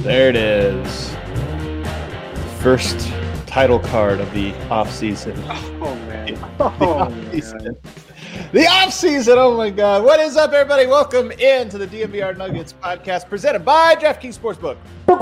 There it is. First title card of the offseason. Oh, man. The offseason. Oh, my God. What is up, everybody? Welcome into the DNVR Nuggets podcast presented by DraftKings Sportsbook.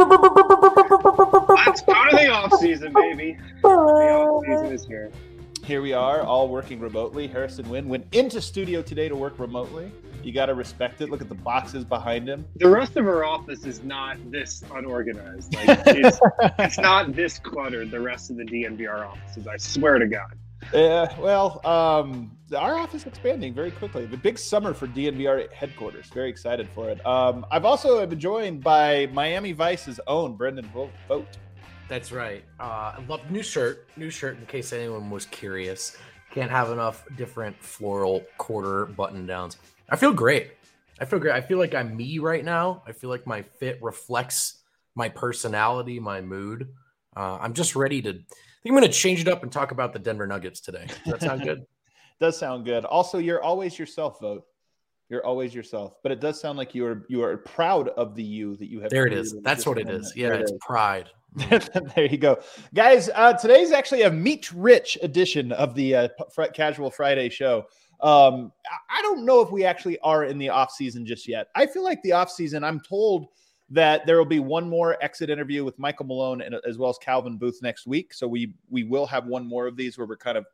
Let's go to the offseason, baby. The offseason is here. Here we are, all working remotely. Harrison Wind went into studio today to work remotely. You got to respect it. Look at the boxes behind him. The rest of our office is not this unorganized. It's not this cluttered, the rest of the DNVR offices, I swear to God. Yeah, well, our office is expanding very quickly. The big summer for DNVR headquarters. Very excited for it. I've also been joined by Miami Vice's own Brendan Vogt. That's right. I love new shirt in case anyone was curious. Can't have enough different floral quarter button downs. I feel great. I feel like I'm me right now. I feel like my fit reflects my personality, my mood. I'm just ready to. I think I'm going to change it up and talk about the Denver Nuggets today. Does that sound good? Does sound good. Also, you're always yourself, Vogt. You're always yourself. But it does sound like you are proud of the you that you have. There it is. That's what it is. Yeah, it's pride. There you go. Guys, today's actually a meat-rich edition of the Casual Friday show. I don't know if we actually are in the off-season just yet. I feel like the off-season, I'm told that there will be one more exit interview with Michael Malone and as well as Calvin Booth next week. So we will have one more of these where we're kind of,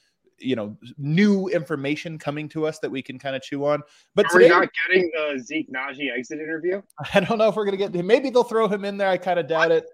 new information coming to us that we can kind of chew on. But are we not getting the Zeke Naji exit interview? I don't know if we're going to get him. Maybe they'll throw him in there. I kind of doubt it.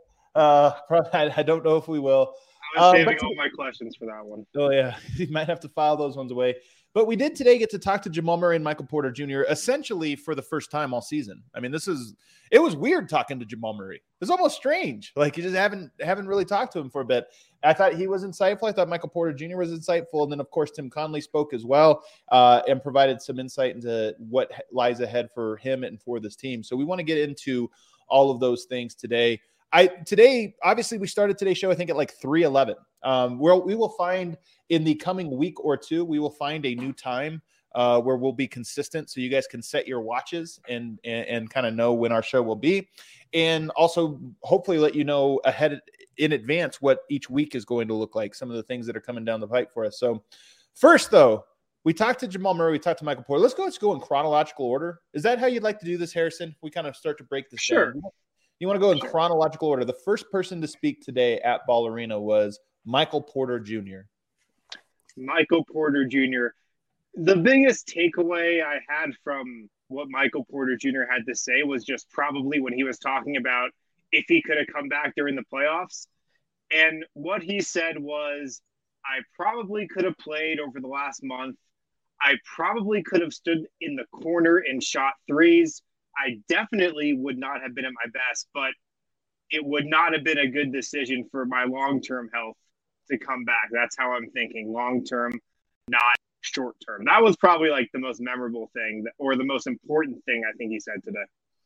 I don't know if we will. I was saving all my questions for that one. Oh, yeah. You might have to file those ones away. But we did today get to talk to Jamal Murray and Michael Porter Jr. essentially for the first time all season. I mean, it was weird talking to Jamal Murray. It was almost strange. Like, you just haven't really talked to him for a bit. I thought he was insightful. I thought Michael Porter Jr. was insightful. And then, of course, Tim Conley spoke as well and provided some insight into what lies ahead for him and for this team. So we want to get into all of those things today. Today, obviously, we started today's show, I think, at like 3:11. We will find in the coming week or two, we will find a new time where we'll be consistent so you guys can set your watches and kind of know when our show will be. And also, hopefully, let you know ahead in advance what each week is going to look like, some of the things that are coming down the pipe for us. So first, though, we talked to Jamal Murray. We talked to Michael Porter. Let's go in chronological order. Is that how you'd like to do this, Harrison? We kind of start to break this down. You want to go in chronological order. The first person to speak today at Ball Arena was Michael Porter Jr. Michael Porter Jr. The biggest takeaway I had from what Michael Porter Jr. had to say was just probably when he was talking about if he could have come back during the playoffs. And what he said was, I probably could have played over the last month. I probably could have stood in the corner and shot threes. I definitely would not have been at my best, but it would not have been a good decision for my long-term health to come back. That's how I'm thinking. Long-term, not short-term. That was probably like the most memorable thing or the most important thing I think he said today.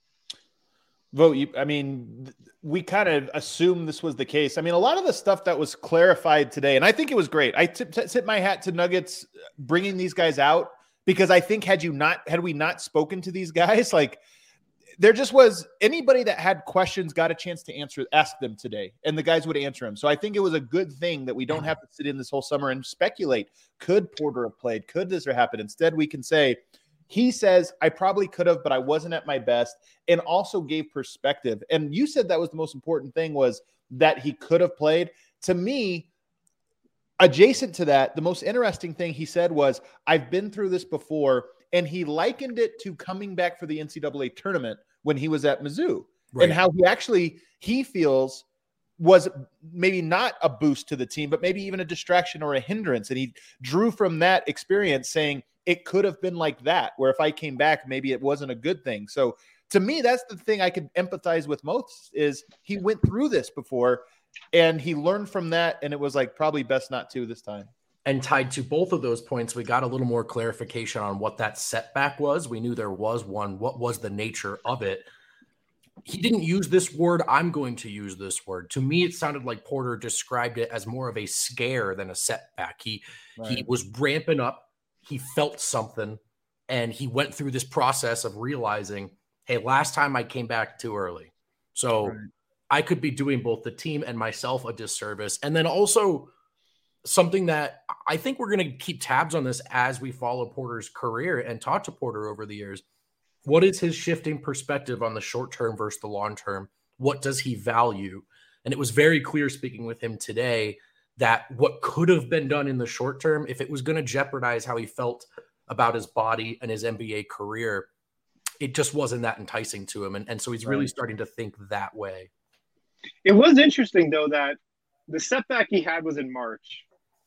We kind of assumed this was the case. I mean, a lot of the stuff that was clarified today, and I think it was great. I tip my hat to Nuggets bringing these guys out because I think had we not spoken to these guys, like, there just was anybody that had questions got a chance to ask them today, and the guys would answer them. So I think it was a good thing that we don't have to sit in this whole summer and speculate. Could Porter have played? Could this have happened? Instead, we can say, he says, I probably could have, but I wasn't at my best, and also gave perspective. And you said that was the most important thing, was that he could have played. To me, adjacent to that, the most interesting thing he said was, I've been through this before. And he likened it to coming back for the NCAA tournament when he was at Mizzou, right? And how he feels was maybe not a boost to the team, but maybe even a distraction or a hindrance. And he drew from that experience saying it could have been like that, where if I came back, maybe it wasn't a good thing. So to me, that's the thing I could empathize with most, is he went through this before and he learned from that. And it was like, probably best not to this time. And tied to both of those points, we got a little more clarification on what that setback was. We knew there was one. What was the nature of it? He didn't use this word. I'm going to use this word. To me, it sounded like Porter described it as more of a scare than a setback. He was ramping up. He felt something, and he went through this process of realizing, hey, last time I came back too early. So I could be doing both the team and myself a disservice. And then also something that I think we're going to keep tabs on this as we follow Porter's career and talk to Porter over the years. What is his shifting perspective on the short term versus the long term? What does he value? And it was very clear speaking with him today that what could have been done in the short term, if it was going to jeopardize how he felt about his body and his NBA career, it just wasn't that enticing to him. And so he's really starting to think that way. It was interesting, though, that the setback he had was in March.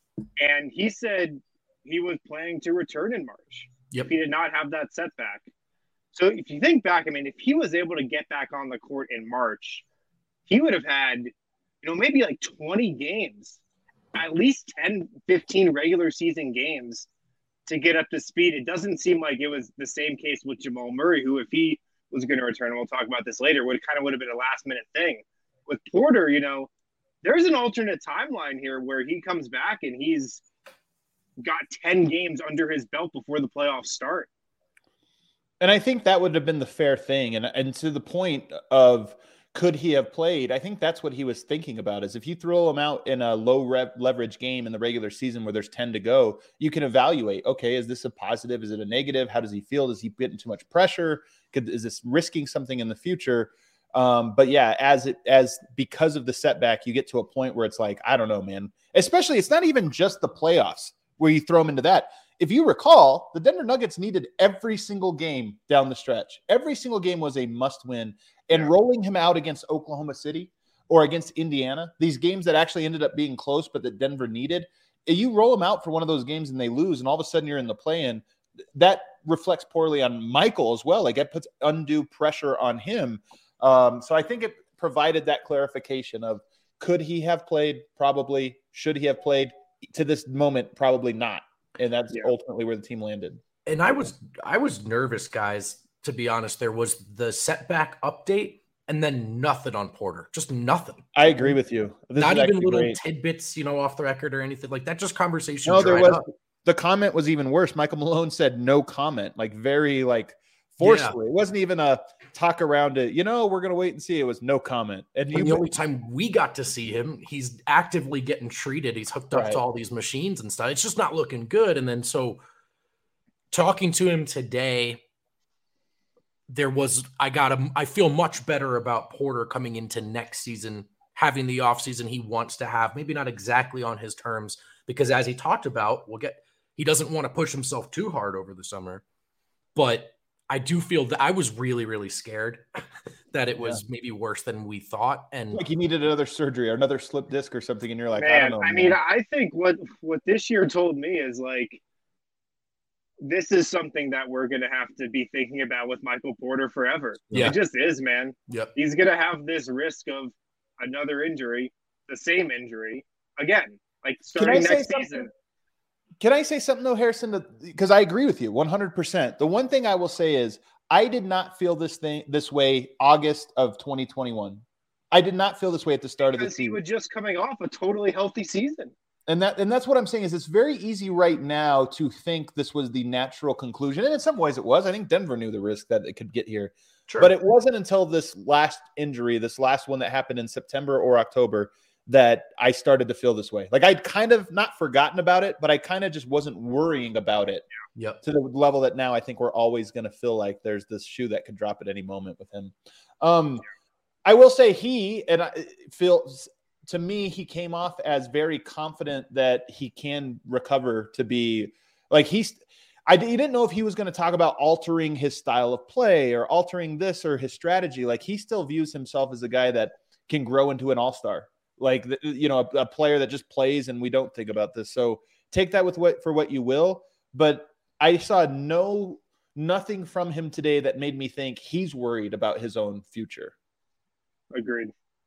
And he said he was planning to return in March. Yep. If he did not have that setback. So if you think back, I mean, if he was able to get back on the court in March, he would have had, maybe like 20 games, at least 10, 15 regular season games to get up to speed. It doesn't seem like it was the same case with Jamal Murray, who, if he was going to return, and we'll talk about this later, would have been a last minute thing. With Porter, there's an alternate timeline here where he comes back and he's got 10 games under his belt before the playoffs start. And I think that would have been the fair thing. And to the point of could he have played, I think that's what he was thinking about, is if you throw him out in a low leverage game in the regular season where there's 10 to go, you can evaluate, okay, is this a positive? Is it a negative? How does he feel? Does he get too much pressure? Is this risking something in the future? But yeah, as because of the setback, you get to a point where it's like, I don't know, man, especially it's not even just the playoffs where you throw him into that. If you recall, the Denver Nuggets needed every single game down the stretch. Every single game was a must win, and rolling him out against Oklahoma City or against Indiana, these games that actually ended up being close, but that Denver needed, you roll them out for one of those games and they lose, and all of a sudden you're in the play-in. That reflects poorly on Michael as well. Like, it puts undue pressure on him. So I think it provided that clarification of, could he have played? Probably. Should he have played? To this moment, probably not. And that's ultimately where the team landed. And I was nervous, guys, to be honest. There was the setback update and then nothing on Porter. Just nothing. I agree with you. Not even little tidbits, off the record or anything like that. Just conversation. No, there was up. The comment was even worse. Michael Malone said no comment, like very forcefully. It wasn't even a talk around it. We're going to wait and see. It was no comment. And the only time we got to see him, he's actively getting treated. He's hooked up to all these machines and stuff. It's just not looking good. And then so talking to him today, I feel much better about Porter coming into next season, having the offseason he wants to have, maybe not exactly on his terms, because as he talked about, he doesn't want to push himself too hard over the summer. But I do feel that I was really, really scared that it was maybe worse than we thought. And like, you needed another surgery or another slip disc or something. And you're like, man, I don't know. I mean, I think what this year told me is, like, this is something that we're going to have to be thinking about with Michael Porter forever. Yeah. It just is, man. Yep. He's going to have this risk of another injury, the same injury again, like starting next season. Can I say something, though, Harrison? Because I agree with you 100%. The one thing I will say is I did not feel this way August of 2021. I did not feel this way at the start of the season. He was just coming off a totally healthy season. And that's what I'm saying is it's very easy right now to think this was the natural conclusion. And in some ways it was. I think Denver knew the risk that it could get here. Sure. But it wasn't until this last injury, this last one that happened in September or October, that I started to feel this way. Like, I'd kind of not forgotten about it, but I kind of just wasn't worrying about it to the level that now I think we're always going to feel like there's this shoe that could drop at any moment with him. I will say to me, he came off as very confident that he can recover to be like he didn't know if he was going to talk about altering his style of play or altering this or his strategy. Like, he still views himself as a guy that can grow into an all-star. Like, a player that just plays, and we don't think about this. So take that for what you will. But I saw nothing from him today that made me think he's worried about his own future. Agreed.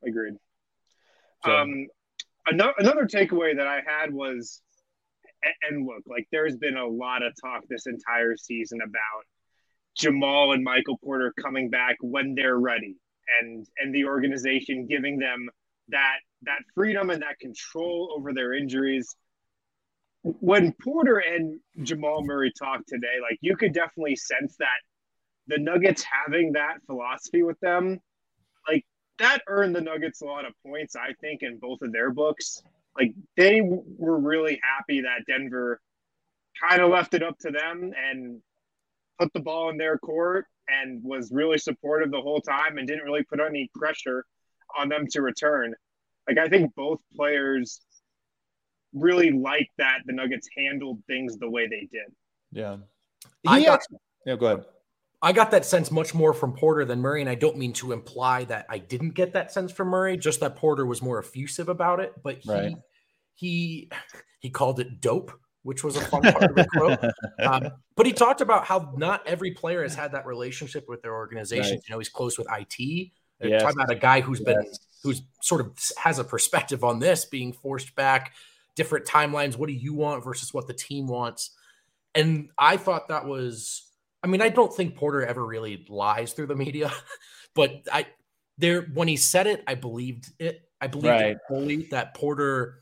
So. Another takeaway that I had was, and look, like, there's been a lot of talk this entire season about Jamal and Michael Porter coming back when they're ready, and the organization giving them that freedom and that control over their injuries. When Porter and Jamal Murray talked today, like, you could definitely sense that the Nuggets having that philosophy with them, like, that earned the Nuggets a lot of points, I think, in both of their books. Like, they were really happy that Denver kind of left it up to them and put the ball in their court and was really supportive the whole time and didn't really put any pressure on them to return. Like, I think both players really liked that the Nuggets handled things the way they did. Yeah. Go ahead. I got that sense much more from Porter than Murray, and I don't mean to imply that I didn't get that sense from Murray, just that Porter was more effusive about it. But he called it dope, which was a fun part of the quote. But he talked about how not every player has had that relationship with their organization. Right. You know, he's close with IT. Yes. Talking about a guy who's sort of has a perspective on this, being forced back, different timelines. What do you want versus what the team wants? And I thought that was, I mean, I don't think Porter ever really lies through the media, but when he said it, I believed it. I believed it fully that Porter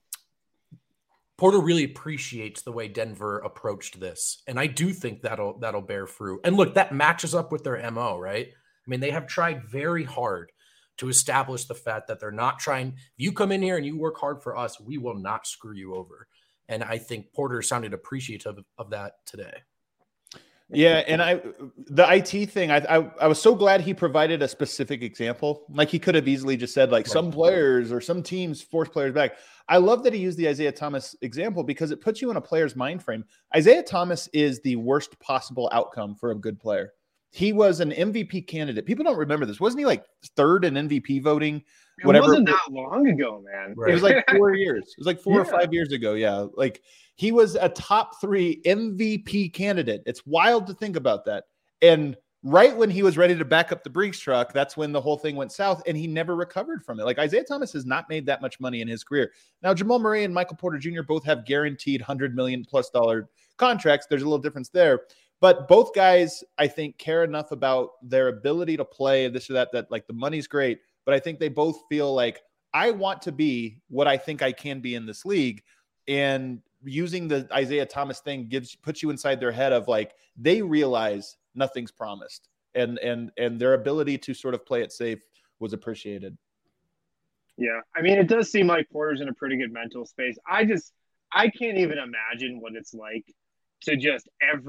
really appreciates the way Denver approached this. And I do think that'll bear fruit. And look, that matches up with their MO, right? I mean, they have tried very hard to establish the fact that they're not trying. If you come in here and you work hard for us, we will not screw you over. And I think Porter sounded appreciative of that today. Yeah, and the IT thing, I was so glad he provided a specific example. Like, he could have easily just said, like, some players or some teams force players back. I love that he used the Isaiah Thomas example because it puts you in a player's mind frame. Isaiah Thomas is the worst possible outcome for a good player. He was an MVP candidate. People don't remember this. Wasn't he like third in MVP voting? It wasn't that long ago, man. Right. It was like 4 years. It was like 4 or 5 years ago. Yeah. Like, he was a top 3 MVP candidate. It's wild to think about that. And right when he was ready to back up the Brinks truck, that's when the whole thing went south, and he never recovered from it. Like, Isaiah Thomas has not made that much money in his career. Now, Jamal Murray and Michael Porter Jr. both have guaranteed $100 million+ contracts. There's a little difference there. But both guys, I think, care enough about their ability to play this or that like the money's great. But I think they both feel like, I want to be what I think I can be in this league. And using the Isaiah Thomas thing puts you inside their head of, like, they realize nothing's promised, and their ability to sort of play it safe was appreciated. Yeah. I mean, it does seem like Porter's in a pretty good mental space. I can't even imagine what it's like to just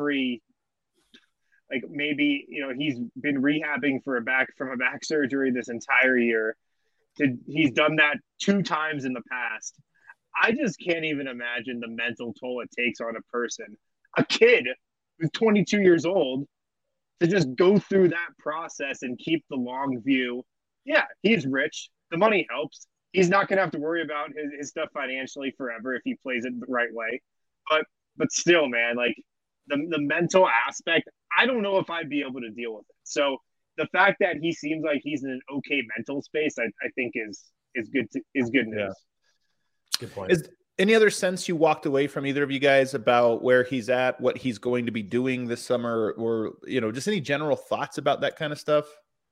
like, maybe, you know, he's been rehabbing from a back surgery this entire year. He's done that 2 times in the past. I just can't even imagine the mental toll it takes on a person, a kid who's 22 years old, to just go through that process and keep the long view. Yeah, he's rich. The money helps. He's not going to have to worry about his stuff financially forever if he plays it the right way. But still, man, like, the mental aspect, I don't know if I'd be able to deal with it. So the fact that he seems like he's in an okay mental space, I think is good news. Yeah. Good point. Is any other sense you walked away from either of you guys about where he's at, what he's going to be doing this summer, or, you know, just any general thoughts about that kind of stuff?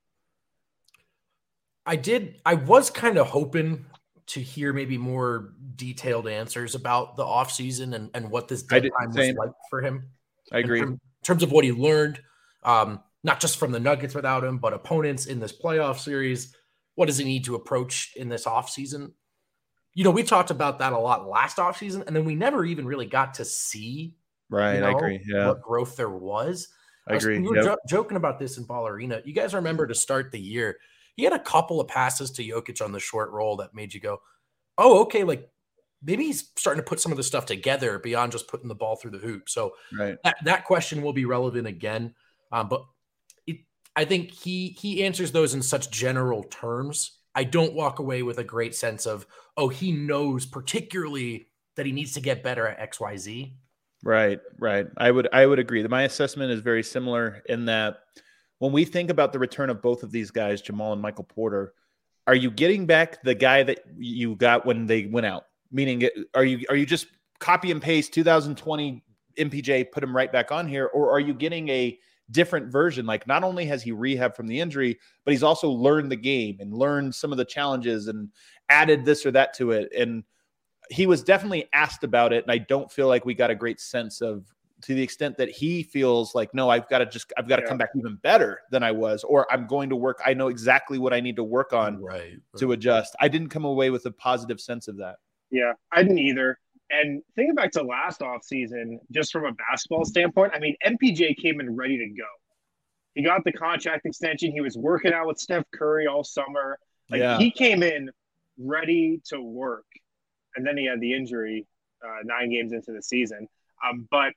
I was kind of hoping to hear maybe more detailed answers about the offseason and what this deadline was like for him. I agree. In terms of what he learned, not just from the Nuggets without him, but opponents in this playoff series. What does he need to approach in this offseason? You know, we talked about that a lot last offseason, and then we never even really got to see I agree. Yeah. What growth there was. I agree. We were joking about this in Ball Arena. You guys remember to start the year, he had a couple of passes to Jokic on the short roll that made you go, oh, okay, like, maybe he's starting to put some of the stuff together beyond just putting the ball through the hoop. So that question will be relevant again. But I think he answers those in such general terms. I don't walk away with a great sense of, oh, he knows particularly that he needs to get better at XYZ. Right. I would agree. My assessment is very similar in that when we think about the return of both of these guys, Jamal and Michael Porter, are you getting back the guy that you got when they went out? Meaning, are you just copy and paste 2020 MPJ, put him right back on here, or are you getting a different version? Like, not only has he rehabbed from the injury, but he's also learned the game and learned some of the challenges and added this or that to it. And he was definitely asked about it, and I don't feel like we got a great sense of to the extent that he feels like, no, I've got to come back even better than I was, or I'm going to work. I know exactly what I need to work on to adjust. I didn't come away with a positive sense of that. Yeah, I didn't either. And thinking back to last offseason, just from a basketball standpoint, I mean, MPJ came in ready to go. He got the contract extension. He was working out with Steph Curry all summer. He came in ready to work. And then he had the injury 9 games into the season. But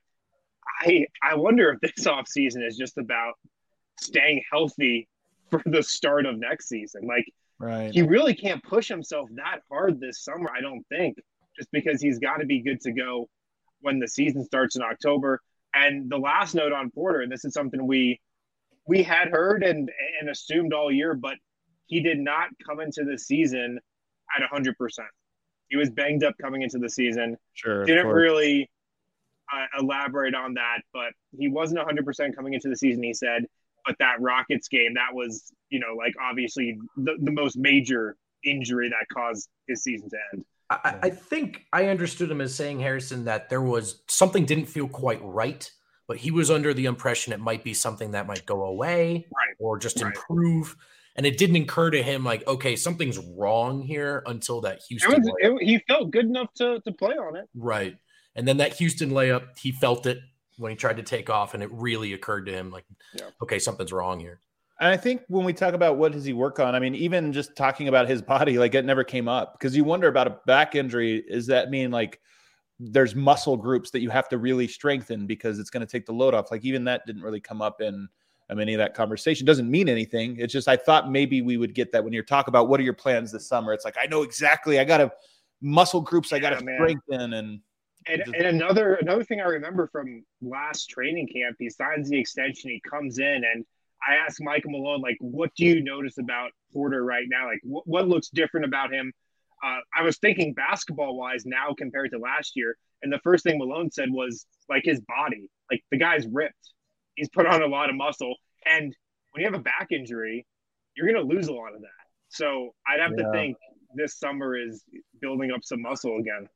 I wonder if this offseason is just about staying healthy for the start of next season. He really can't push himself that hard this summer, I don't think, just because he's got to be good to go when the season starts in October. And the last note on Porter, and this is something we had heard and assumed all year, but he did not come into the season at 100%. He was banged up coming into the season. Sure. Didn't really elaborate on that, but he wasn't 100% coming into the season, he said. But that Rockets game, that was, obviously the most major injury that caused his season to end. I think I understood him as saying, Harrison, that there was something didn't feel quite right, but he was under the impression it might be something that might go away or just improve. And it didn't occur to him like, okay, something's wrong here until that Houston layup. He felt good enough to play on it. Right. And then that Houston layup, he felt it when he tried to take off, and it really occurred to him like, okay, something's wrong here. And I think when we talk about what does he work on, I mean, even just talking about his body, it never came up, because you wonder about a back injury. Does that mean there's muscle groups that you have to really strengthen because it's going to take the load off? Even that didn't really come up in any of that conversation. Doesn't mean anything. It's just, I thought maybe we would get that when you're talking about what are your plans this summer. It's I know exactly, I got to muscle groups. I got to strengthen. And another thing I remember from last training camp, he signs the extension, he comes in, and I asked Michael Malone, what do you notice about Porter right now? What looks different about him? I was thinking basketball-wise now compared to last year, and the first thing Malone said was, his body. The guy's ripped. He's put on a lot of muscle, and when you have a back injury, you're going to lose a lot of that. So I'd have to think this summer is building up some muscle again.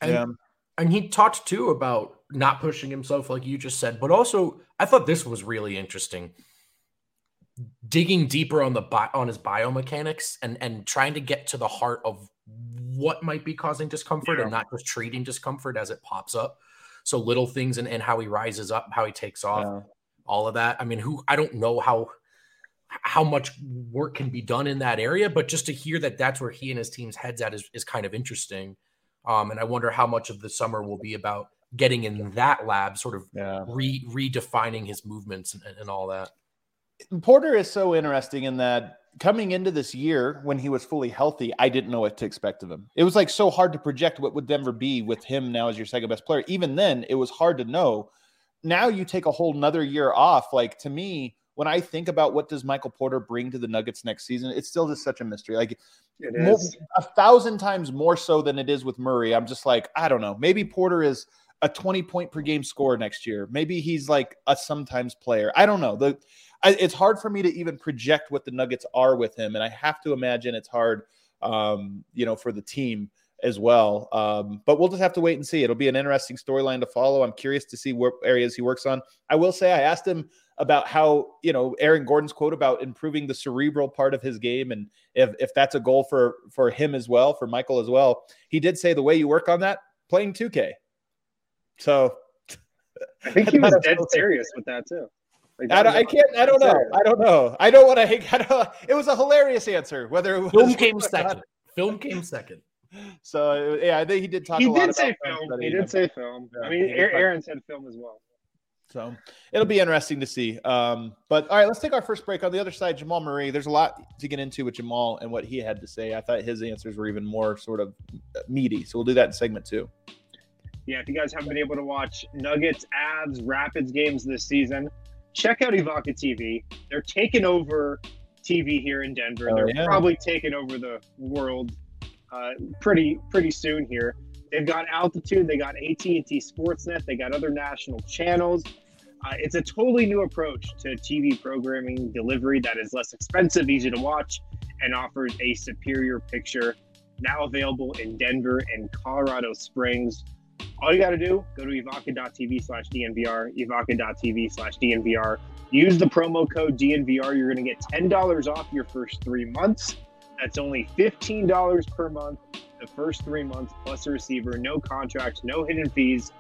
And he talked, too, about not pushing himself like you just said, but also I thought this was really interesting. Digging deeper on his biomechanics and trying to get to the heart of what might be causing discomfort and not just treating discomfort as it pops up. So little things and how he rises up, how he takes off, all of that. I mean, I don't know how much work can be done in that area, but just to hear that that's where he and his team's head's at is kind of interesting. And I wonder how much of the summer will be about getting in that lab, sort of redefining his movements and all that. Porter is so interesting in that coming into this year when he was fully healthy, I didn't know what to expect of him. It was so hard to project what would Denver be with him now as your second best player. Even then, it was hard to know. Now you take a whole nother year off. To me, when I think about what does Michael Porter bring to the Nuggets next season, it's still just such a mystery. It is 1,000 times more so than it is with Murray. I'm just I don't know. Maybe Porter is a 20-point per game scorer next year. Maybe he's a sometimes player. I don't know. It's hard for me to even project what the Nuggets are with him, and I have to imagine it's hard, for the team as well. But we'll just have to wait and see. It'll be an interesting storyline to follow. I'm curious to see what areas he works on. I will say I asked him about how, Aaron Gordon's quote about improving the cerebral part of his game, and if that's a goal for him as well, for Michael as well. He did say the way you work on that, playing 2K. So I think he was dead serious with that too. I don't know. I don't want to. It was a hilarious answer. Whether it was Film came second. So I think he did talk. He a lot did say film. He did say film. Yeah, I mean, Aaron said film as well. So it'll be interesting to see. But all right, let's take our first break. On the other side, Jamal Murray. There's a lot to get into with Jamal and what he had to say. I thought his answers were even more sort of meaty. So we'll do that in segment 2. Yeah, if you guys haven't been able to watch Nuggets, Avs, Rapids games this season, check out Evoca TV. They're taking over TV here in Denver. They're probably taking over the world pretty soon here. They've got Altitude. They got AT&T Sportsnet. They got other national channels. It's a totally new approach to TV programming delivery that is less expensive, easy to watch, and offers a superior picture. Now available in Denver and Colorado Springs. All you got to do, go to evoca.tv/DNVR, evoca.tv/DNVR. Use the promo code DNVR. You're going to get $10 off your first 3 months. That's only $15 per month, the first 3 months, plus a receiver. No contracts, no hidden fees.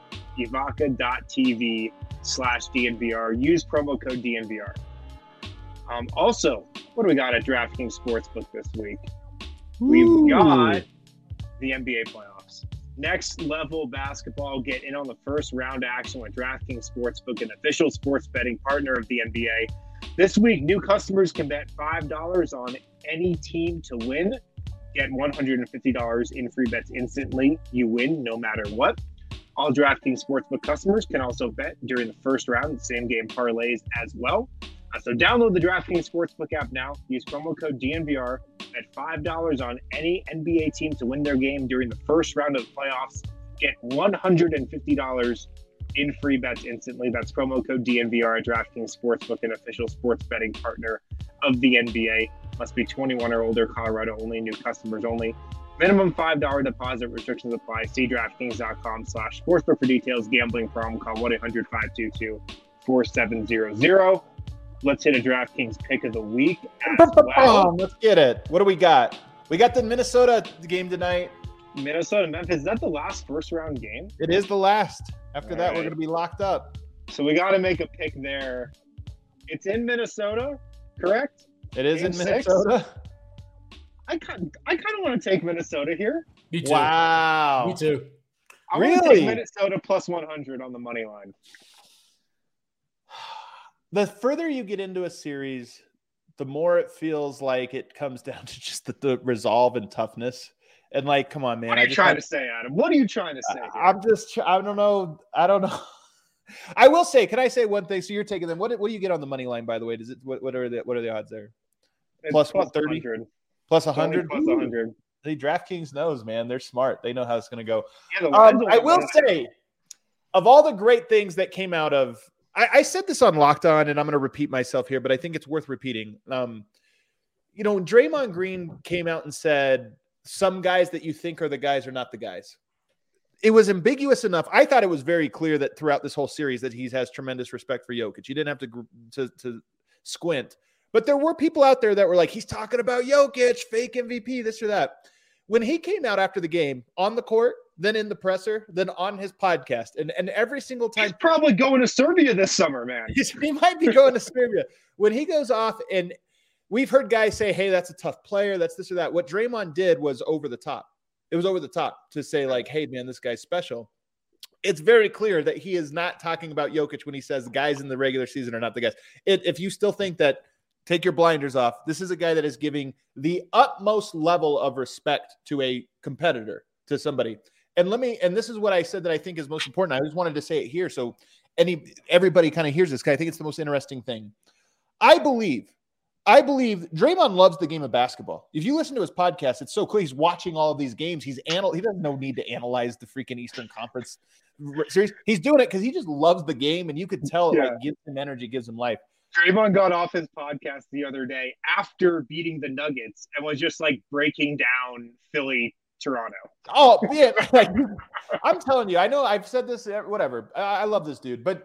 evoca.tv/DNVR. Use promo code DNVR. Also, what do we got at DraftKings Sportsbook this week? We've got the NBA playoffs. Next level basketball. Get in on the first round action with DraftKings Sportsbook, an official sports betting partner of the NBA. This week, new customers can bet $5 on any team to win. Get $150 in free bets instantly. You win no matter what. All DraftKings Sportsbook customers can also bet during the first round, same game parlays as well. So download the DraftKings Sportsbook app now. Use promo code DNVR. Bet $5 on any NBA team to win their game during the first round of the playoffs. Get $150 in free bets instantly. That's promo code DNVR at DraftKings Sportsbook, an official sports betting partner of the NBA. Must be 21 or older, Colorado only, new customers only. Minimum $5 deposit, restrictions apply. See DraftKings.com/sportsbook for details. Gambling problem, call 1-800-522-4700. Let's hit a DraftKings pick of the week as well. Let's get it. What do we got? We got the Minnesota game tonight. Minnesota, Memphis. Is that the last first round game? It is the last. After that, right, we're going to be locked up. So we got to make a pick there. It's in Minnesota, correct? It is Game in Minnesota. 6? I kind of want to take Minnesota here. Me too. Wow. Me too. I want to Really? take Minnesota plus 100 on the money line. The further you get into a series, the more it feels like it comes down to just the resolve and toughness. And like, come on, man. What are you trying to say, Adam? What are you trying to say here? I don't know. I will say, can I say one thing? So you're taking them. What do you get on the money line, by the way? What are the odds there? It's Plus 130? Plus 100? Plus 100. The DraftKings knows, man. They're smart. They know how it's going to go. Yeah, I will say, of all the great things that came out of, I said this on Locked On, and I'm going to repeat myself here, but I think it's worth repeating. When Draymond Green came out and said, some guys that you think are the guys are not the guys. It was ambiguous enough. I thought it was very clear that throughout this whole series that he has tremendous respect for Jokic. You didn't have to squint. But there were people out there that were like, he's talking about Jokic, fake MVP, this or that. When he came out after the game on the court, then in the presser, then on his podcast, and every single time. He's probably going to Serbia this summer, man. He might be going to Serbia. When he goes off, and we've heard guys say, hey, that's a tough player, that's this or that. What Draymond did was over the top. It was over the top to say, like, hey, man, this guy's special. It's very clear that he is not talking about Jokic when he says guys in the regular season are not the guys. If you still think that, take your blinders off. This is a guy that is giving the utmost level of respect to a competitor, to somebody. And this is what I said that I think is most important. I just wanted to say it here so everybody kind of hears this, because I think it's the most interesting thing. I believe Draymond loves the game of basketball. If you listen to his podcast, it's so cool. He's watching all of these games. He doesn't no need to analyze the freaking Eastern Conference series. He's doing it because he just loves the game, and you could tell it like gives him energy, gives him life. Draymond got off his podcast the other day after beating the Nuggets and was just like breaking down Philly, Toronto. Oh, yeah. I'm telling you, I know I've said this, whatever. I love this dude. But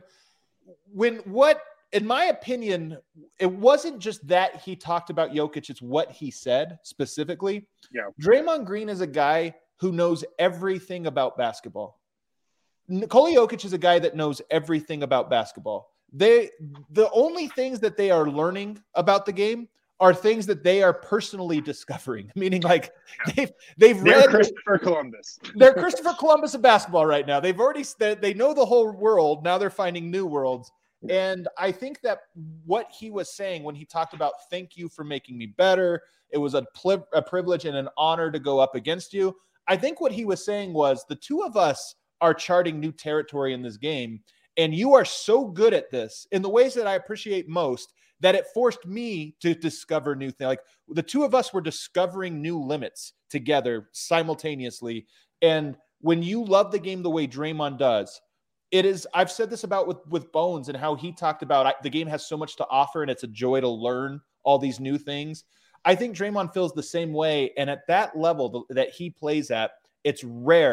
in my opinion, it wasn't just that he talked about Jokic, it's what he said specifically. Yeah. Draymond Green is a guy who knows everything about basketball. Nikola Jokic is a guy that knows everything about basketball. The only things that they are learning about the game are things that they are personally discovering. Meaning, like they're read Christopher Columbus. They're Christopher Columbus of basketball right now. They know the whole world. Now they're finding new worlds. And I think that what he was saying when he talked about thank you for making me better, it was a privilege and an honor to go up against you. I think what he was saying was the two of us are charting new territory in this game. And you are so good at this in the ways that I appreciate most that it forced me to discover new things. Like the two of us were discovering new limits together simultaneously. And when you love the game the way Draymond does, it is, I've said this about with Bones and how he talked about the game has so much to offer and it's a joy to learn all these new things. I think Draymond feels the same way. And at that level that he plays at, it's rare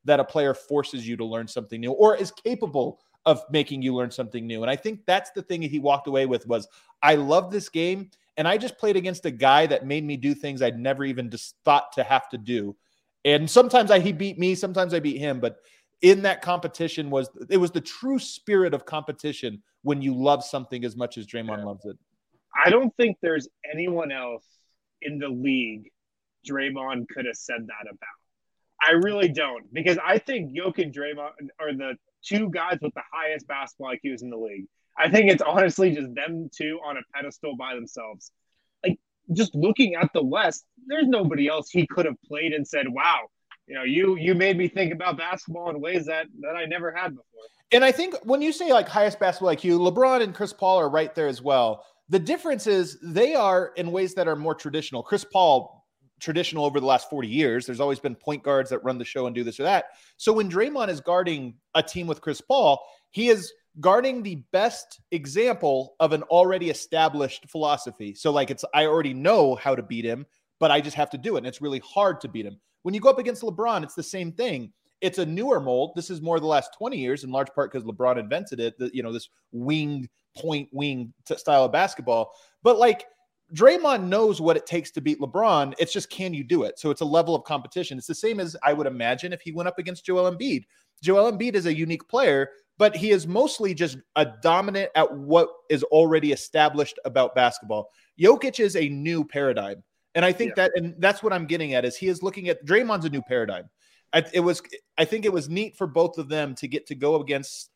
that a player forces you to learn something new or is capable of making you learn something new. And I think that's the thing that he walked away with was, I love this game. And I just played against a guy that made me do things I'd never even just thought to have to do. And sometimes he beat me, sometimes I beat him. But in that competition it was the true spirit of competition when you love something as much as Draymond loves it. I don't think there's anyone else in the league Draymond could have said that about. I really don't, because I think Jokic and Draymond are the two guys with the highest basketball IQs in the league. I think it's honestly just them two on a pedestal by themselves. Like, just looking at the West, there's nobody else he could have played and said, wow, you made me think about basketball in ways that I never had before. And I think when you say like highest basketball IQ, LeBron and Chris Paul are right there as well. The difference is they are in ways that are more traditional. Chris Paul, traditional over the last 40 years. There's always been point guards that run the show and do this or that. So when Draymond is guarding a team with Chris Paul, he is guarding the best example of an already established philosophy. So like I already know how to beat him, but I just have to do it. And it's really hard to beat him. When you go up against LeBron, it's the same thing. It's a newer mold. This is more the last 20 years, in large part because LeBron invented it, this wing style of basketball. But like, Draymond knows what it takes to beat LeBron. It's just, can you do it? So it's a level of competition. It's the same as I would imagine if he went up against Joel Embiid. Joel Embiid is a unique player, but he is mostly just a dominant at what is already established about basketball. Jokic is a new paradigm. And I think that's what I'm getting at is he is looking at Draymond's a new paradigm. I think it was neat for both of them to get to go against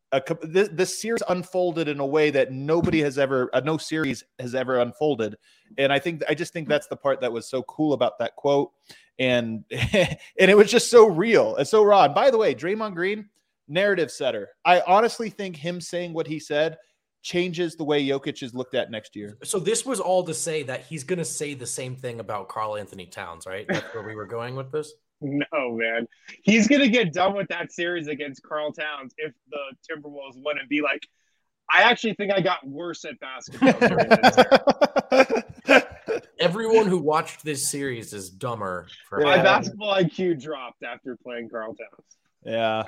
this series unfolded in a way that no series has ever unfolded. And I just think that's the part that was so cool about that quote. And it was just so real and so raw. And by the way, Draymond Green, narrative setter. I honestly think him saying what he said changes the way Jokic is looked at next year. So this was all to say that he's going to say the same thing about Karl Anthony Towns, right? That's where we were going with this. No, man. He's going to get done with that series against Karl Towns if the Timberwolves win and be like, I actually think I got worse at basketball during this. Everyone who watched this series is dumber. My basketball IQ dropped after playing Karl Towns. Yeah.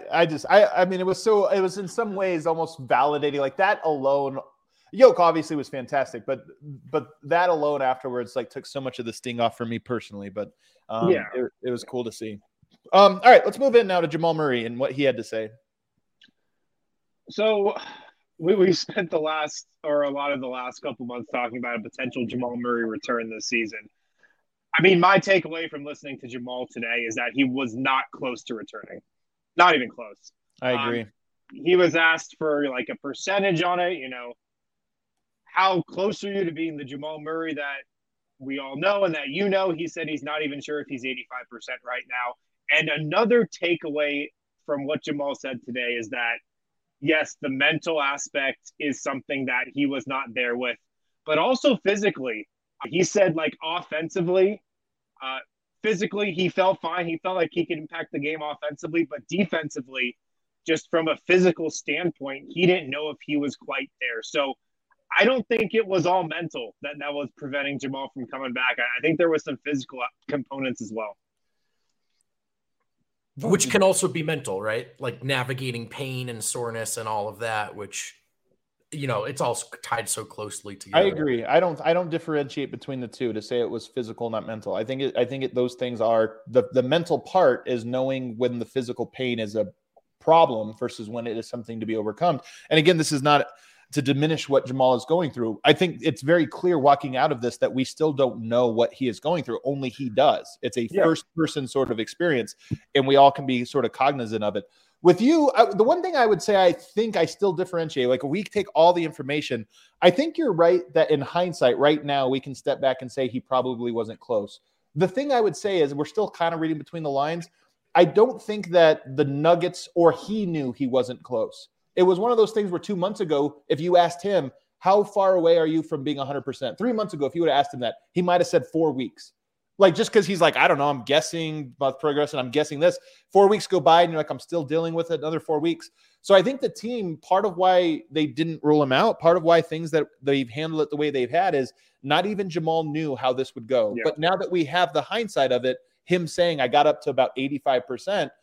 I mean, it was in some ways almost validating, like that alone. Yoke obviously was fantastic, but that alone afterwards took so much of the sting off for me personally. But it was cool to see. All right, let's move in now to Jamal Murray and what he had to say. So we spent a lot of the last couple months talking about a potential Jamal Murray return this season. I mean, my takeaway from listening to Jamal today is that he was not close to returning. Not even close. I agree. He was asked for a percentage on it, how close are you to being the Jamal Murray that we all know and that he said he's not even sure if he's 85% right now. And another takeaway from what Jamal said today is that, yes, the mental aspect is something that he was not there with, but also physically. He said, offensively, physically, he felt fine. He felt like he could impact the game offensively, but defensively, just from a physical standpoint, he didn't know if he was quite there. So I don't think it was all mental that was preventing Jamal from coming back. I think there was some physical components as well. Which can also be mental, right? Like navigating pain and soreness and all of that, which, it's all tied so closely together. I agree. I don't differentiate between the two to say it was physical, not mental. I think those things are the mental part is knowing when the physical pain is a problem versus when it is something to be overcome. And again, this is not to diminish what Jamal is going through. I think it's very clear walking out of this that we still don't know what he is going through. Only he does. It's a first person sort of experience, and we all can be sort of cognizant of it. With you, the one thing I would say, I think I still differentiate, if we take all the information, I think you're right that in hindsight right now, we can step back and say he probably wasn't close. The thing I would say is we're still kind of reading between the lines. I don't think that the Nuggets or he knew he wasn't close. It was one of those things where 2 months ago, if you asked him, how far away are you from being 100%? 3 months ago, if you would have asked him that, he might have said 4 weeks. Just because he's I don't know, I'm guessing about progress and I'm guessing this. 4 weeks go by and you're I'm still dealing with it another 4 weeks. So I think the team, part of why they didn't rule him out, part of why things that they've handled it the way they've had is not even Jamal knew how this would go. Yeah. But now that we have the hindsight of it, him saying I got up to about 85%,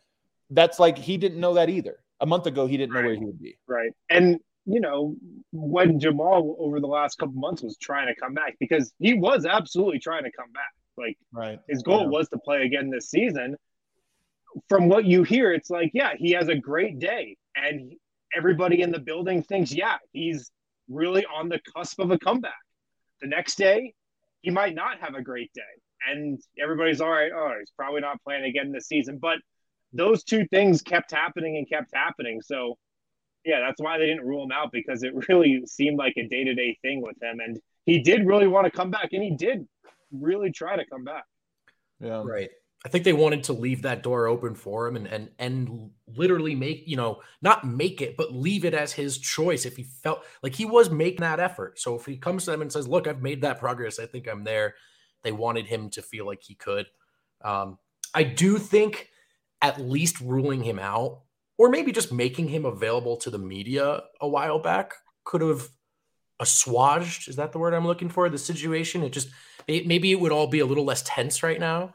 that's like he didn't know that either. A month ago, he didn't know where he would be. Right. And, when Jamal over the last couple months was trying to come back, because he was absolutely trying to come back. Like, his goal was to play again this season. From what you hear, it's like, yeah, he has a great day. And everybody in the building thinks, yeah, he's really on the cusp of a comeback. The next day, he might not have a great day. And everybody's all right. Oh, he's probably not playing again this season. But those two things kept happening. So, yeah, that's why they didn't rule him out, because it really seemed like a day-to-day thing with him. And he did really want to come back, and he did really try to come back. Yeah. Right. I think they wanted to leave that door open for him and literally make, not make it, but leave it as his choice if he felt like he was making that effort. So if he comes to them and says, look, I've made that progress, I think I'm there. They wanted him to feel like he could. I do think at least ruling him out, or maybe just making him available to the media a while back, could have assuaged, is that the word I'm looking for, the situation? Maybe it would all be a little less tense right now.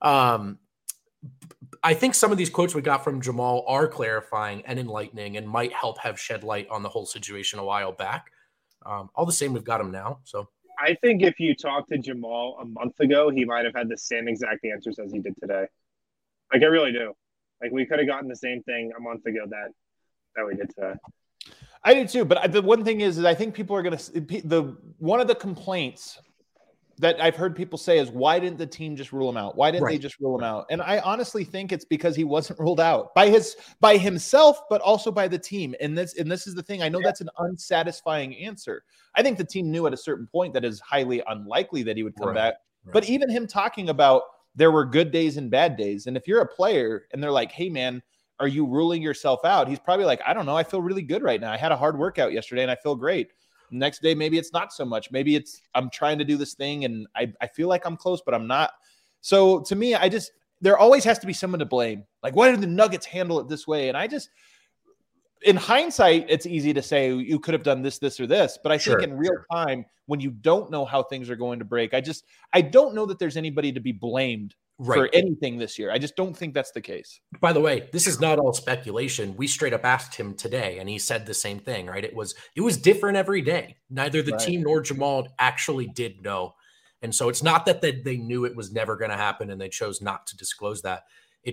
I think some of these quotes we got from Jamal are clarifying and enlightening and might help have shed light on the whole situation a while back. All the same, we've got him now. So I think if you talked to Jamal a month ago, he might have had the same exact answers as he did today. Like, I really do. Like, we could have gotten the same thing a month ago that we did today. I do too. But the one thing is I think people are going to one of the complaints that I've heard people say is, why didn't the team just rule him out? Why didn't they just rule him out? And I honestly think it's because he wasn't ruled out by himself, but also by the team. And this is the thing. I know that's an unsatisfying answer. I think the team knew at a certain point that is highly unlikely that he would come back. Right. But even him talking about there were good days and bad days. And if you're a player and they're like, hey man, are you ruling yourself out? He's probably like, I don't know. I feel really good right now. I had a hard workout yesterday and I feel great. Next day, maybe it's not so much. Maybe it's I'm trying to do this thing and I feel like I'm close, but I'm not. So to me, there always has to be someone to blame. Like, why did the Nuggets handle it this way? And in hindsight, it's easy to say you could have done this, this, or this. But I think in real time, when you don't know how things are going to break, I don't know that there's anybody to be blamed for anything this year. I just don't think that's the case. By the way, this is not all speculation. We straight up asked him today, and he said the same thing, right? It was different every day. Neither the team nor Jamal actually did know. And so it's not that they knew it was never going to happen and they chose not to disclose that.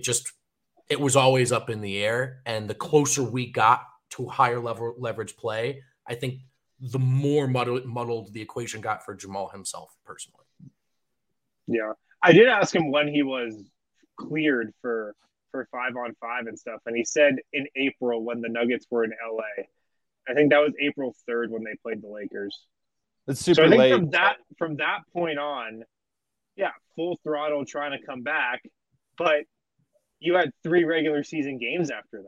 It was always up in the air. And the closer we got to higher level leverage play, I think the more muddled the equation got for Jamal himself personally. Yeah. I did ask him when he was cleared for 5-on-5 and stuff. And he said in April when the Nuggets were in LA. I think that was April 3rd when they played the Lakers. It's super late. From that point on, yeah, full throttle trying to come back. But you had 3 regular season games after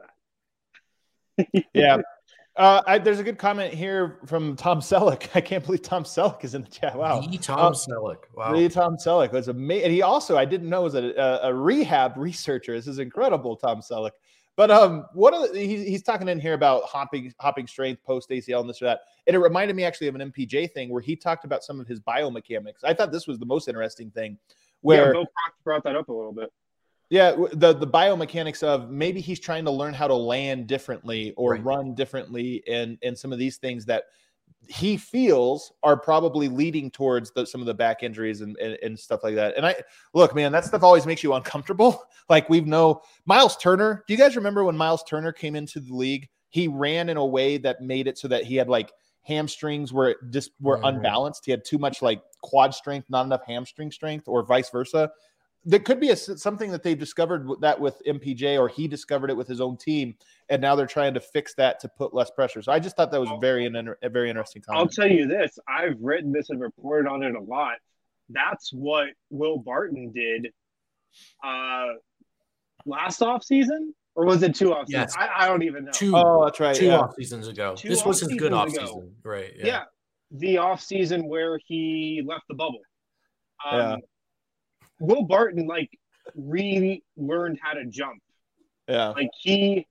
that. Yeah. There's a good comment here from Tom Selleck. I can't believe Tom Selleck is in the chat. Wow. Tom Selleck. Wow. Tom Selleck was amazing. And he also, I didn't know, was a rehab researcher. This is incredible, Tom Selleck. But he's talking in here about hopping strength, post ACL, and this or that. And it reminded me actually of an MPJ thing where he talked about some of his biomechanics. I thought this was the most interesting thing. Where Bill Cox brought that up a little bit. Yeah, the biomechanics of maybe he's trying to learn how to land differently or run differently, and some of these things that he feels are probably leading towards some of the back injuries and stuff like that. And look, man, that stuff always makes you uncomfortable. Like Miles Turner. Do you guys remember when Miles Turner came into the league? He ran in a way that made it so that he had like hamstrings were unbalanced. He had too much like quad strength, not enough hamstring strength, or vice versa. There could be something that they discovered that with MPJ, or he discovered it with his own team, and now they're trying to fix that to put less pressure. So I just thought that was a very interesting comment. I'll tell you this. I've written this and reported on it a lot. That's what Will Barton did last offseason, or was it 2 offseasons? Yes. I don't even know. That's right. 2 off seasons ago. This was his good offseason. Right. Yeah. The offseason where he left the bubble. Will Barton relearned how to jump. Yeah. Like he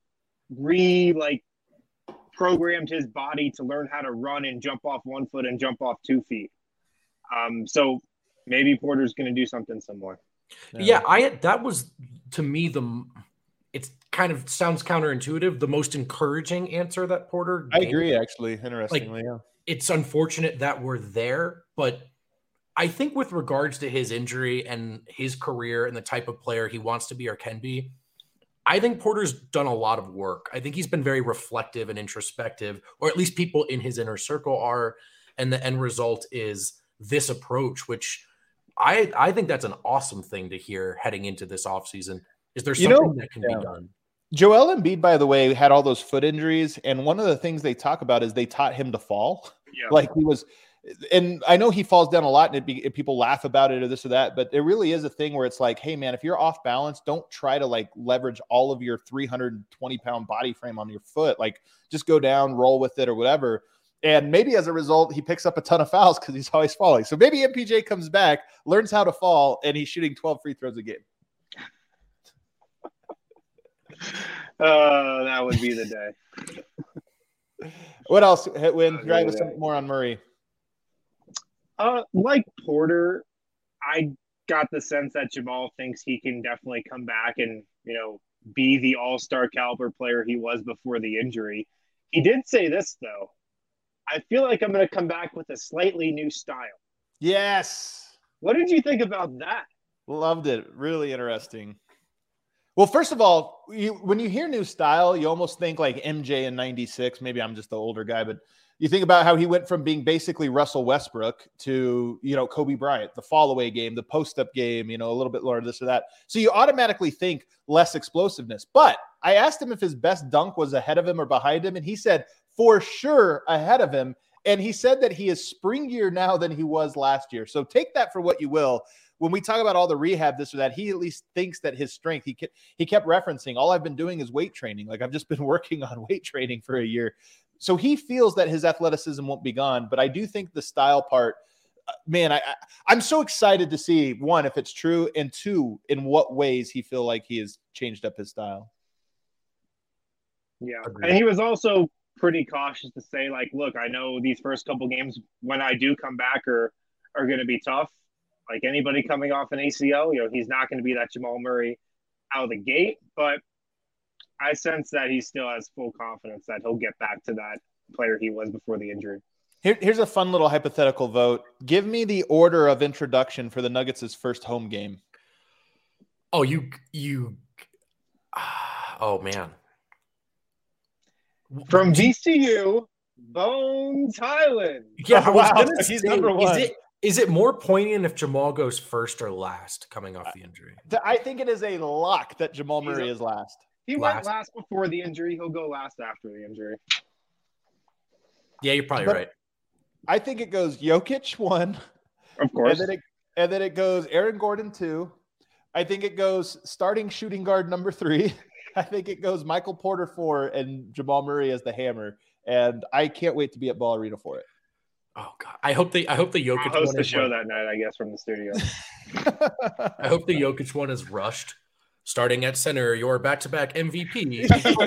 programmed his body to learn how to run and jump off 1 foot and jump off 2 feet. So maybe Porter's going to do something similar. Yeah, that was to me it's kind of sounds counterintuitive, the most encouraging answer that Porter I gave. agree, actually, interestingly. Yeah. It's unfortunate that we're there, but I think with regards to his injury and his career and the type of player he wants to be or can be, I think Porter's done a lot of work. I think he's been very reflective and introspective, or at least people in his inner circle are, and the end result is this approach, which I think that's an awesome thing to hear heading into this offseason. Is there something that can be done? Joel Embiid, by the way, had all those foot injuries, and one of the things they talk about is they taught him to fall. Yeah. Like he was, and I know he falls down a lot, and people laugh about it or this or that, but it really is a thing where it's like, hey man, if you're off balance, don't try to like leverage all of your 320-pound body frame on your foot. Like just go down, roll with it or whatever. And maybe as a result, he picks up a ton of fouls because he's always falling. So maybe MPJ comes back, learns how to fall, and he's shooting 12 free throws a game. That would be the day. What else, Hitwin? Drive us some more on Murray. Like Porter, I got the sense that Jamal thinks he can definitely come back and, be the all-star caliber player he was before the injury. He did say this, though. I feel like I'm going to come back with a slightly new style. Yes. What did you think about that? Loved it. Really interesting. Well, first of all, when you hear new style, you almost think like MJ in 96. Maybe I'm just the older guy, but you think about how he went from being basically Russell Westbrook to, Kobe Bryant, the fall away game, the post up game, a little bit lower this or that. So you automatically think less explosiveness. But I asked him if his best dunk was ahead of him or behind him. And he said, for sure ahead of him. And he said that he is springier now than he was last year. So take that for what you will. When we talk about all the rehab, this or that, he at least thinks that his strength, he kept referencing, all I've been doing is weight training. Like I've just been working on weight training for a year. So he feels that his athleticism won't be gone. But I do think the style part, man, I'm so excited to see, one, if it's true, and two, in what ways he feel like he has changed up his style. Yeah. Agreed. And he was also pretty cautious to say, like, look, I know these first couple games when I do come back are going to be tough. Like anybody coming off an ACL, he's not going to be that Jamal Murray out of the gate, but I sense that he still has full confidence that he'll get back to that player he was before the injury. Here's a fun little hypothetical vote. Give me the order of introduction for the Nuggets' first home game. Oh, oh man. From VCU, Bones Hyland. Yeah, oh, wow. He's number one. Is it more poignant if Jamal goes first or last coming off the injury? I think it is a lock that Jamal Murray is last. He went last before the injury. He'll go last after the injury. Yeah, you're probably right. I think it goes Jokic 1. Of course. And then it goes Aaron Gordon 2. I think it goes starting shooting guard number 3. I think it goes Michael Porter 4 and Jamal Murray as the hammer. And I can't wait to be at Ball Arena for it. Oh God! I hope the Jokic I'll host the show that night, I guess, from the studio. I hope the Jokic one is rushed. Starting at center, your back-to-back MVP.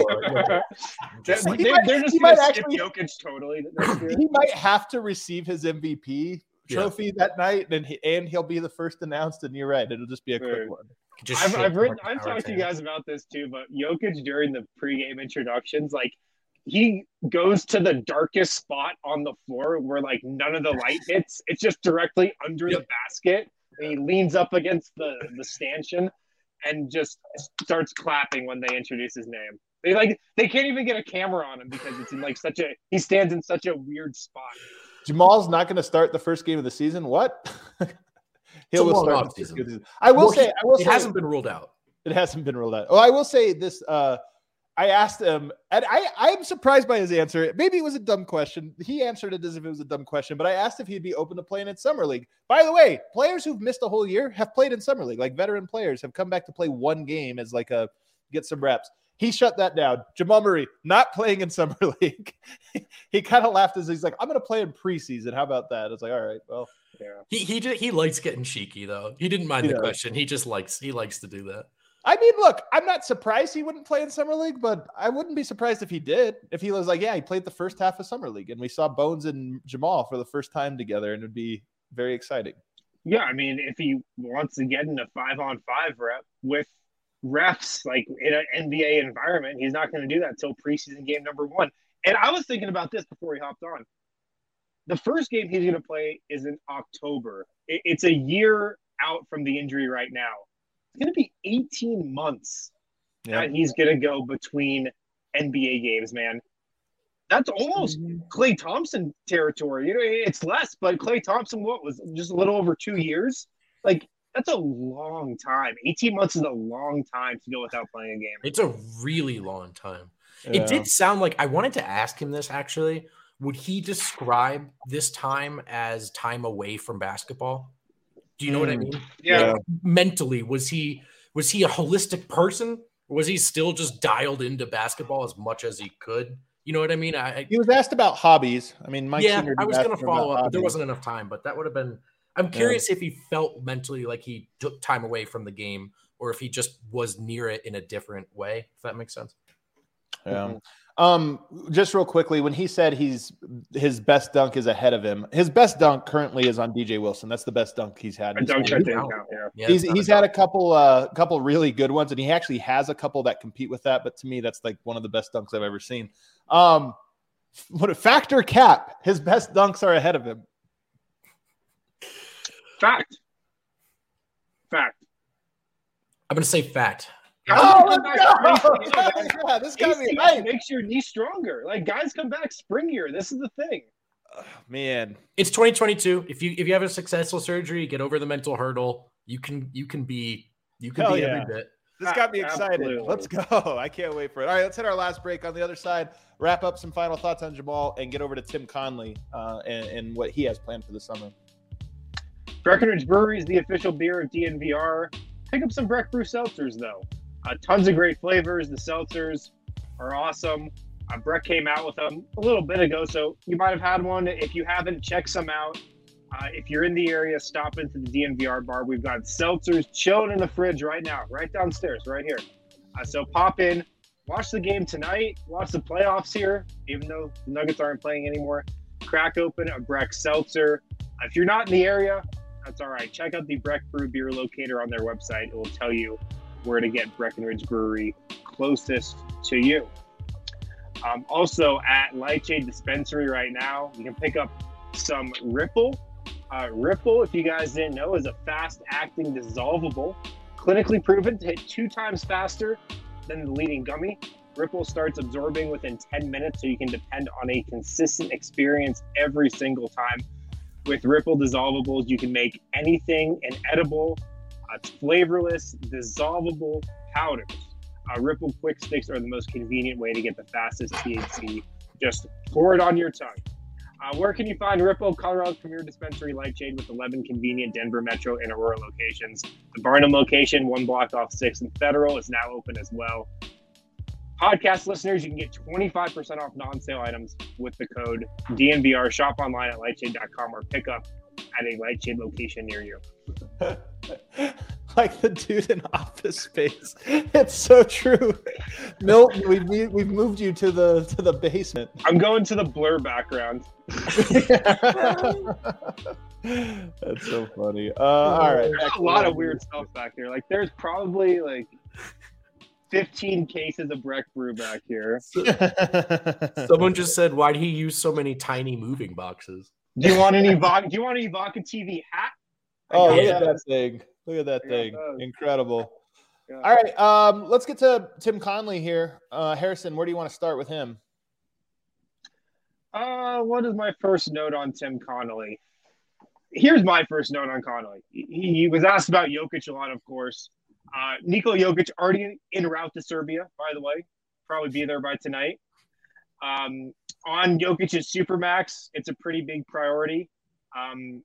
They're just going to skip Jokic totally. He might have to receive his MVP trophy that night, and he'll be the first announced. And you're right; it'll just be a quick one. I've talked to you guys about this too, but Jokic during the pregame introductions, like. He goes to the darkest spot on the floor where like none of the light hits. It's just directly under the basket. And he leans up against the stanchion and just starts clapping when they introduce his name. They can't even get a camera on him because it's in like he stands in such a weird spot. Jamal's not going to start the first game of the season. What? He'll start the season. I will say it hasn't been ruled out. It hasn't been ruled out. Oh, I will say this. I asked him, and I'm surprised by his answer. Maybe it was a dumb question. He answered it as if it was a dumb question, but I asked if he'd be open to playing in Summer League. By the way, players who've missed a whole year have played in Summer League. Like veteran players have come back to play one game as like get some reps. He shut that down. Jamal Murray, not playing in Summer League. He kind of laughed as he's like, I'm going to play in preseason. How about that? I was like, all right, well. Yeah. He likes getting cheeky, though. He didn't mind the question. He just likes to do that. I mean, look, I'm not surprised he wouldn't play in Summer League, but I wouldn't be surprised if he did. If he was like, yeah, he played the first half of Summer League, and we saw Bones and Jamal for the first time together, and it would be very exciting. Yeah, I mean, if he wants to get in a 5-on-5 rep with refs like in an NBA environment. He's not going to do that until preseason game number 1. And I was thinking about this before he hopped on. The first game he's going to play is in October. It's a year out from the injury right now. It's going to be 18 months that he's going to go between NBA games, man. That's almost Klay Thompson territory. You know, it's less, but Klay Thompson, what was just a little over 2 years? Like, that's a long time. 18 months is a long time to go without playing a game. It's a really long time. Yeah. It did sound like, I wanted to ask him this actually. Would he describe this time as time away from basketball? Do you know what I mean? Yeah. Like, mentally, was he a holistic person? Or was he still just dialed into basketball as much as he could? You know what I mean? He was asked about hobbies. I mean, Mike Singer I was going to follow up, hobbies. but there wasn't enough time. But that would have been – I'm curious if he felt mentally like he took time away from the game or if he just was near it in a different way, if that makes sense. Yeah. Just real quickly, when he said his best dunk is ahead of him, his best dunk currently is on DJ Wilson. That's the best dunk he's had. He's had a couple really good ones, and he actually has a couple that compete with that. But to me, that's like one of the best dunks I've ever seen. What a factor cap. His best dunks are ahead of him. Fact. I'm going to say fact. Oh, yeah, this got me right. Makes your knee stronger. Like, guys come back springier. This is the thing. Man, it's 2022. If you have a successful surgery, get over the mental hurdle. You can be every bit. This got me excited. Absolutely. Let's go. I can't wait for it. All right, let's hit our last break. On the other side, wrap up some final thoughts on Jamal and get over to Tim Conley and what he has planned for the summer. Breckenridge Brewery is the official beer of DNVR. Pick up some Breck Brew seltzers, though. Tons of great flavors. The seltzers are awesome. Breck came out with them a little bit ago, so you might have had one. If you haven't, check some out. If you're in the area, stop into the DNVR bar. We've got seltzers chilling in the fridge right now, right downstairs, right here. So pop in, watch the game tonight, watch the playoffs here, even though the Nuggets aren't playing anymore. Crack open a Breck seltzer. If you're not in the area, that's all right. Check out the Breck Brew beer locator on their website. It will tell you where to get Breckenridge Brewery closest to you. Also at Lightshade Dispensary right now, you can pick up some Ripple. Ripple, if you guys didn't know, is a fast-acting dissolvable, clinically proven to hit 2 times faster than the leading gummy. Ripple starts absorbing within 10 minutes, so you can depend on a consistent experience every single time. With Ripple dissolvables, you can make anything an edible. It's flavorless, dissolvable powders. Ripple Quick Sticks are the most convenient way to get the fastest THC. Just pour it on your tongue. Where can you find Ripple? Colorado's premier dispensary, Lightshade, with 11 convenient Denver Metro and Aurora locations. The Barnum location, 1 block off 6th and Federal, is now open as well. Podcast listeners, you can get 25% off non-sale items with the code DNVR. Shop online at lightshade.com or pick up at a Lightshade location near you. Like the dude in Office Space. It's so true. Milton, we've moved you to the basement. I'm going to the blur background. That's so funny. All right. There's a lot of weird stuff back there. Like, there's probably like 15 cases of Breck Brew back here. Someone just said, why'd he use so many tiny moving boxes? Do you want any Vodka TV hat? Oh, look at that thing. Look at that thing. Incredible. Yeah. All right. Let's get to Tim Conley here. Harrison, where do you want to start with him? What is my first note on Tim Connolly? Here's my first note on Connolly. He was asked about Jokic a lot, of course. Nikola Jokic already en route to Serbia, by the way. Probably be there by tonight. On Jokic's Supermax, it's a pretty big priority. And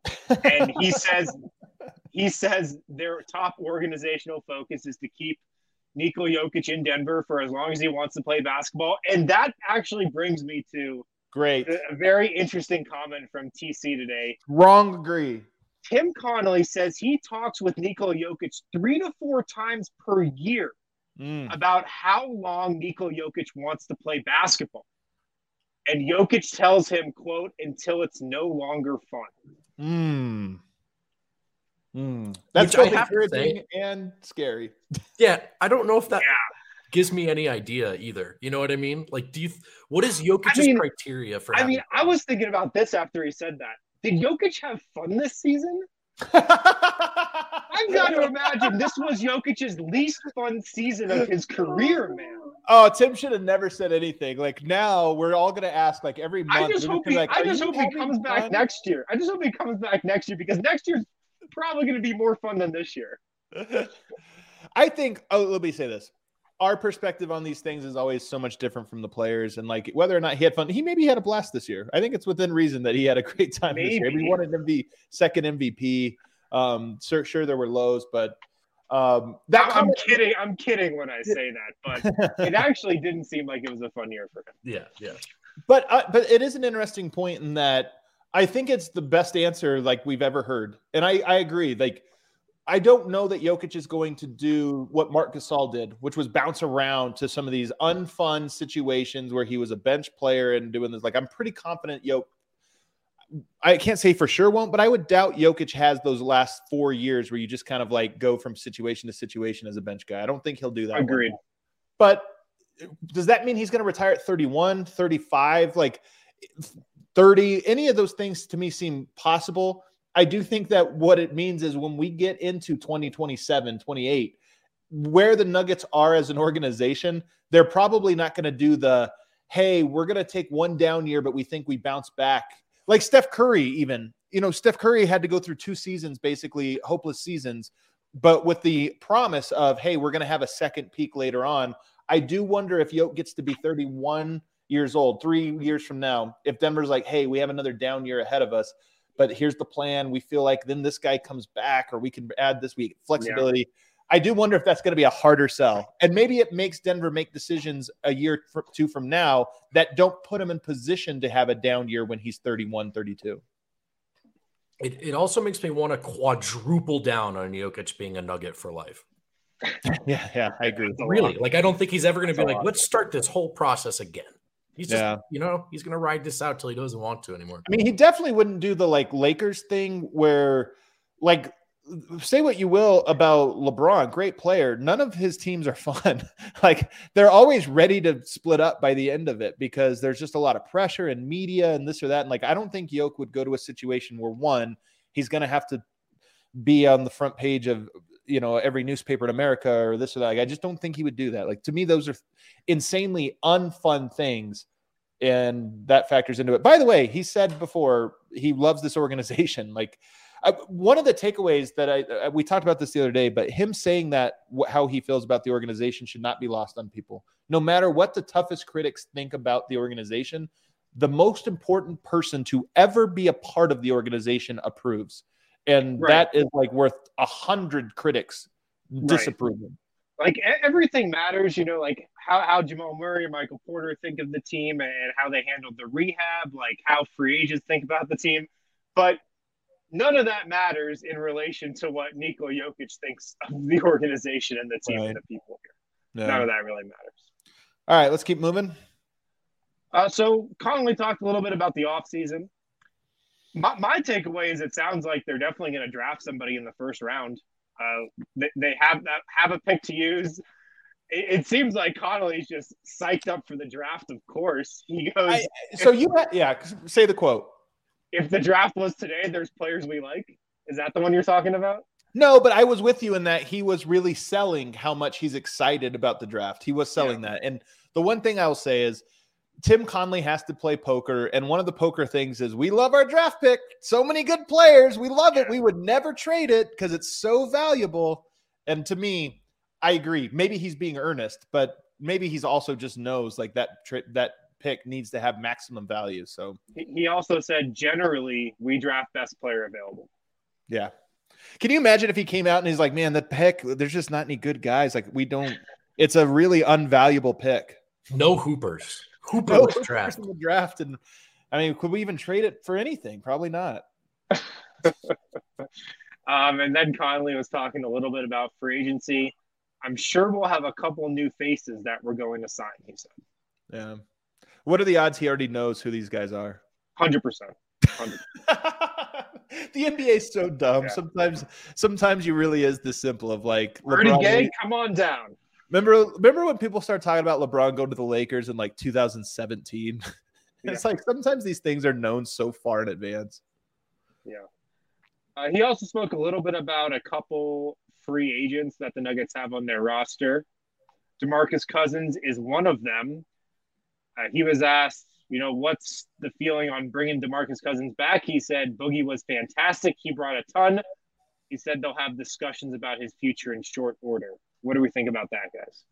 he says their top organizational focus is to keep Nikola Jokic in Denver for as long as he wants to play basketball. And that actually brings me to a very interesting comment from TC today. Wrong agree. Tim Connolly says he talks with Nikola Jokic 3 to 4 times per year about how long Nikola Jokic wants to play basketball. And Jokic tells him, quote, until it's no longer fun. That's Which I both have to encouraging say- and scary. Yeah, I don't know if that gives me any idea either. You know what I mean? Like, what is Jokic's criteria for? I was thinking about this after he said that. Did Jokic have fun this season? I've got to imagine this was Jokic's least fun season of his career, man. Oh, Tim should have never said anything. Like now, we're all gonna ask like every month. I just hope he comes back next year. I just hope he comes back next year because next year's probably going to be more fun than this year. I think. Oh, let me say this. Our perspective on these things is always so much different from the players, and like whether or not he had fun, he maybe had a blast this year. I think it's within reason that he had a great time this year. He wanted to be second MVP. Sure, there were lows, but I'm kidding when I say that, but it actually didn't seem like it was a fun year for him. Yeah. But it is an interesting point in that I think it's the best answer like we've ever heard, and I agree. Like I don't know that Jokic is going to do what Marc Gasol did, which was bounce around to some of these unfun situations where he was a bench player and doing this. Like I'm pretty confident I can't say for sure won't, but I would doubt Jokic has those last 4 years where you just kind of like go from situation to situation as a bench guy. I don't think he'll do that. Agreed. But does that mean he's going to retire at 31, 35, like 30? Any of those things to me seem possible. I do think that what it means is when we get into 2027, 28, where the Nuggets are as an organization, they're probably not going to do the, hey, we're going to take one down year, but we think we bounce back. Like Steph Curry, even, Steph Curry had to go through 2 seasons, basically hopeless seasons, but with the promise of, hey, we're going to have a second peak later on. I do wonder if Jokic gets to be 31 years old, 3 years from now, if Denver's like, hey, we have another down year ahead of us, but here's the plan. We feel like then this guy comes back, or we can add this week flexibility. Yeah. I do wonder if that's going to be a harder sell. And maybe it makes Denver make decisions a year or 2 from now that don't put him in position to have a down year when he's 31, 32. It also makes me want to quadruple down on Jokic being a Nugget for life. Yeah, I agree. Really? Like, I don't think he's ever going to be like, let's start this whole process again. He's just, he's going to ride this out till he doesn't want to anymore. I mean, he definitely wouldn't do the like Lakers thing where like, say what you will about LeBron, great player. None of his teams are fun. Like they're always ready to split up by the end of it because there's just a lot of pressure and media and this or that. And like, I don't think Jokic would go to a situation where one, he's going to have to be on the front page of, every newspaper in America or this or that. Like, I just don't think he would do that. Like to me, those are insanely unfun things. And that factors into it. By the way, he said before he loves this organization. Like, one of the takeaways that we talked about this the other day, but him saying that how he feels about the organization should not be lost on people. No matter what the toughest critics think about the organization, the most important person to ever be a part of the organization approves. And that is like worth 100 critics disapproving. Like everything matters, like how Jamal Murray and Michael Porter think of the team and how they handled the rehab, like how free agents think about the team. But none of that matters in relation to what Nikola Jokic thinks of the organization and the team and the people here. Yeah. None of that really matters. All right, let's keep moving. So Conley talked a little bit about the offseason. My takeaway is it sounds like they're definitely going to draft somebody in the first round. They have a pick to use. It seems like Connolly's just psyched up for the draft, of course. He goes, say the quote. If the draft was today, there's players we like. Is that the one you're talking about? No, but I was with you in that he was really selling how much he's excited about the draft. He was selling that. And the one thing I'll say is Tim Connelly has to play poker. And one of the poker things is we love our draft pick. So many good players. We love it. We would never trade it because it's so valuable. And to me, I agree. Maybe he's being earnest, but maybe he's also just knows like that pick needs to have maximum value. So he also said, generally, we draft best player available. Yeah. Can you imagine if he came out and he's like, man, that pick, there's just not any good guys. Like it's a really unvaluable pick. No hoopers. Hoopers in the draft. And I mean, could we even trade it for anything? Probably not. And then Conley was talking a little bit about free agency. I'm sure we'll have a couple new faces that we're going to sign, he said. Yeah. What are the odds he already knows who these guys are? 100%. The NBA is so dumb. Yeah. Sometimes you really is this simple of like Rudy LeBron. Gay, come on down. Remember when people started talking about LeBron going to the Lakers in like 2017? It's like sometimes these things are known so far in advance. Yeah. He also spoke a little bit about a couple free agents that the Nuggets have on their roster. DeMarcus Cousins is one of them. He was asked, what's the feeling on bringing DeMarcus Cousins back? He said Boogie was fantastic. He brought a ton. He said they'll have discussions about his future in short order. What do we think about that,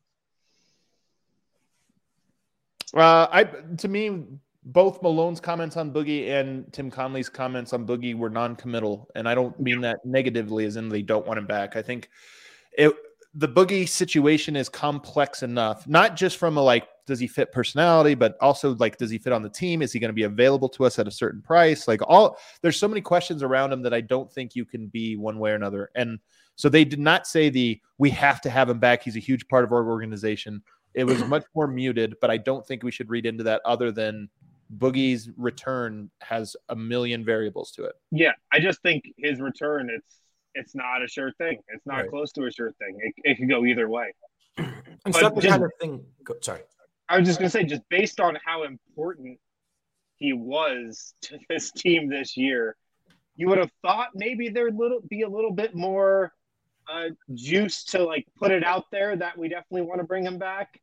guys? To me, both Malone's comments on Boogie and Tim Conley's comments on Boogie were non-committal, and I don't mean that negatively as in they don't want him back. I think the Boogie situation is complex enough, not just from does he fit personality, but also does he fit on the team? Is he going to be available to us at a certain price? There's so many questions around him that I don't think you can be one way or another. And so they did not say we have to have him back. He's a huge part of our organization. It was much more muted, but I don't think we should read into that other than Boogie's return has a million variables to it. Yeah, I just think his return, it's not a sure thing. It's not close to a sure thing. It could go either way. And the kind of thing. Sorry, I was just gonna say, just based on how important he was to this team this year, you would have thought maybe there'd be a little bit more juice to put it out there that we definitely want to bring him back.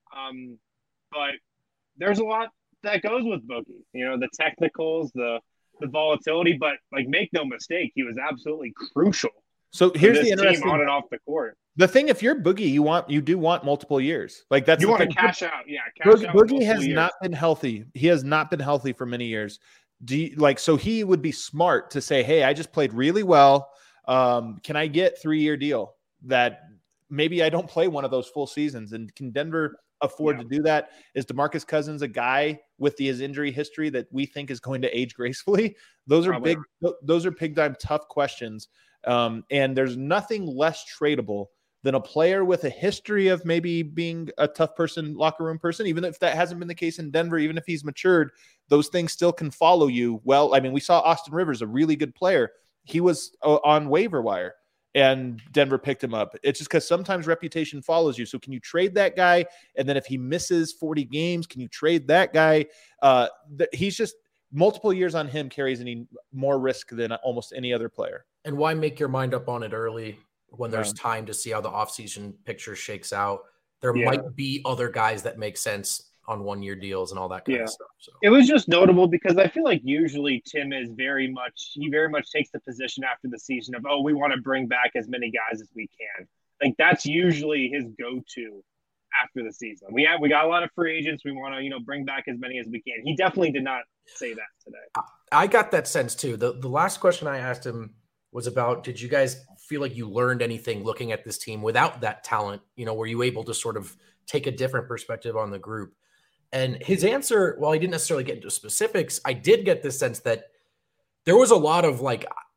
But there's a lot that goes with Boogie. The technicals, the volatility, but make no mistake, he was absolutely crucial. So here's the interesting team on and off the court. The thing, if you're Boogie, you do want multiple years. That's you want to cash out. Yeah, Boogie has not been healthy. He has not been healthy for many years. So he would be smart to say, hey, I just played really well. Can I get 3-year deal that maybe I don't play one of those full seasons? And can Denver afford to do that? Is DeMarcus Cousins a guy with his injury history that we think is going to age gracefully? Those are big time tough questions. And there's nothing less tradable than a player with a history of maybe being a tough person, locker room person. Even if that hasn't been the case in Denver, even if he's matured, those things still can follow you. Well, I mean, we saw Austin Rivers, a really good player. He was on waiver wire and Denver picked him up. It's just because sometimes reputation follows you. So can you trade that guy? And then if he misses 40 games, can you trade that guy? He's just multiple years on him carries any more risk than almost any other player. And why make your mind up on it early when there's time to see how the offseason picture shakes out? There might be other guys that make sense on 1-year deals and all that kind of stuff. So it was just notable because I feel like usually Tim is very much takes the position after the season of, we want to bring back as many guys as we can. That's usually his go-to after the season. We got a lot of free agents. We want to, bring back as many as we can. He definitely did not say that today. I got that sense too. The last question I asked him was about, did you guys feel like you learned anything looking at this team without that talent? Were you able to sort of take a different perspective on the group? And his answer, while he didn't necessarily get into specifics, I did get the sense that there was a lot of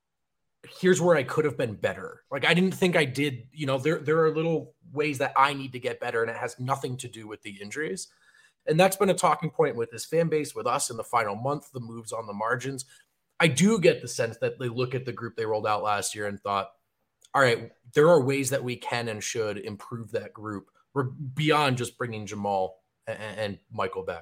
here's where I could have been better. I didn't think I did, there are little ways that I need to get better, and it has nothing to do with the injuries. And that's been a talking point with his fan base, with us in the final month, the moves on the margins. I do get the sense that they look at the group they rolled out last year and thought, all right, there are ways that we can and should improve that group. We're beyond just bringing Jamal and Michael back.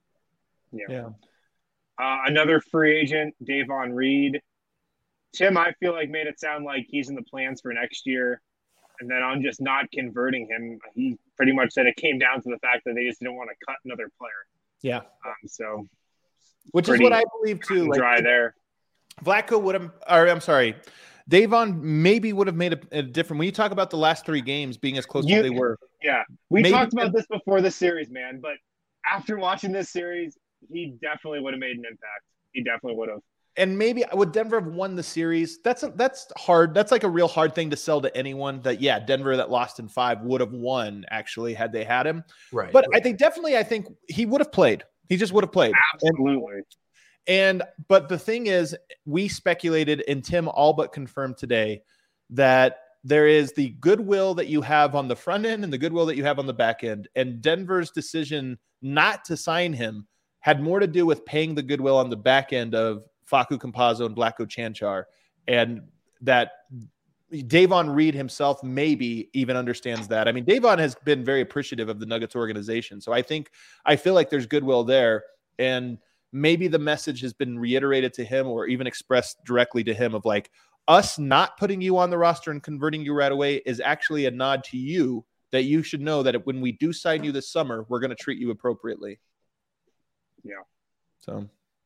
Yeah. Another free agent, Davon Reed. Tim, I feel like made it sound like he's in the plans for next year. And then on just not converting him, he pretty much said it came down to the fact that they just didn't want to cut another player. Yeah. So, which is what I believe too. Dry there. Vlatko would have, or I'm sorry, Davon maybe would have made a different. When you talk about the last 3 games being as close as they were. Yeah. We talked about this before this series, man. But after watching this series, he definitely would have made an impact. He definitely would have. And maybe would Denver have won the series? That's hard. That's a real hard thing to sell to anyone. That Denver that lost in 5 would have won actually had they had him. Right. But I think he would have played. He just would have played. Absolutely. But the thing is, we speculated, and Tim all but confirmed today that there is the goodwill that you have on the front end and the goodwill that you have on the back end. And Denver's decision not to sign him had more to do with paying the goodwill on the back end of Facu Campazzo and Vlatko Cancar, and that Davon Reed himself maybe even understands that. I mean, Davon has been very appreciative of the Nuggets organization. So I feel like there's goodwill there. And maybe the message has been reiterated to him or even expressed directly to him of like, us not putting you on the roster and converting you right away is actually a nod to you that you should know that when we do sign you this summer, we're going to treat you appropriately. Yeah. So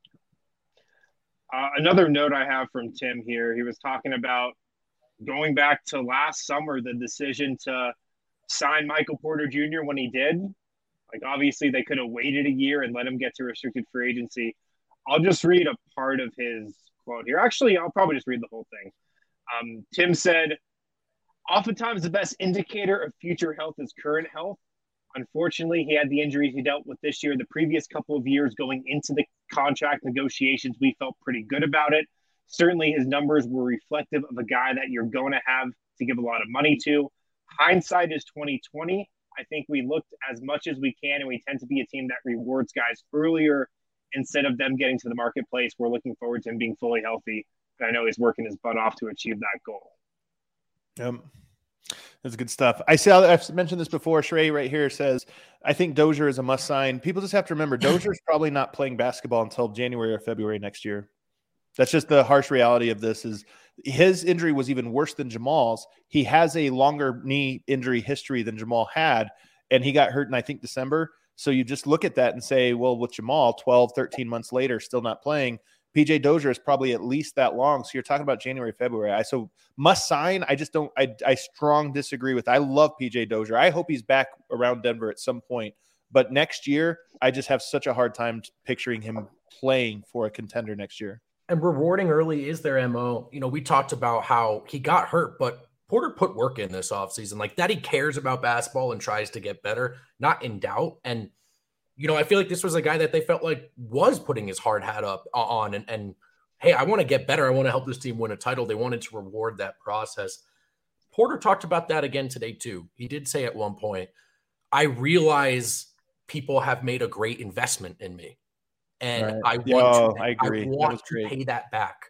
another note I have from Tim here, he was talking about going back to last summer, the decision to sign Michael Porter Jr. when he did. Like, obviously, they could have waited a year and let him get to restricted free agency. I'll just read a part of his quote here. Actually, I'll probably just read the whole thing. Tim said, "Oftentimes, the best indicator of future health is current health. Unfortunately, he had the injuries he dealt with this year. The previous couple of years going into the contract negotiations, we felt pretty good about it. Certainly, his numbers were reflective of a guy that you're going to have to give a lot of money to. Hindsight is 2020. I think we looked as much as we can, and we tend to be a team that rewards guys earlier instead of them getting to the marketplace. We're looking forward to him being fully healthy. And I know he's working his butt off to achieve that goal." That's good stuff. I've mentioned this before. Shrey right here says, I think Dozier is a must sign. People just have to remember Dozier's probably not playing basketball until January or February next year. That's just the harsh reality of this. Is his injury was even worse than Jamal's. He has a longer knee injury history than Jamal had, and he got hurt in, I think, December. So you just look at that and say, well, with Jamal, 12, 13 months later, still not playing, PJ Dozier is probably at least that long. So you're talking about January, February. So must sign. I just don't, I strong disagree with. I love PJ Dozier. I hope he's back around Denver at some point. But next year, I just have such a hard time picturing him playing for a contender next year. And rewarding early is their MO. You know, we talked about how he got hurt, but Porter put work in this offseason. Like that, he cares about basketball and tries to get better, not in doubt. And, you know, I feel like this was a guy that they felt like was putting his hard hat up on and hey, I want to get better. I want to help this team win a title. They wanted to reward that process. Porter talked about that again today too. He did say at one point, I realize people have made a great investment in me. And right. I want to pay that back.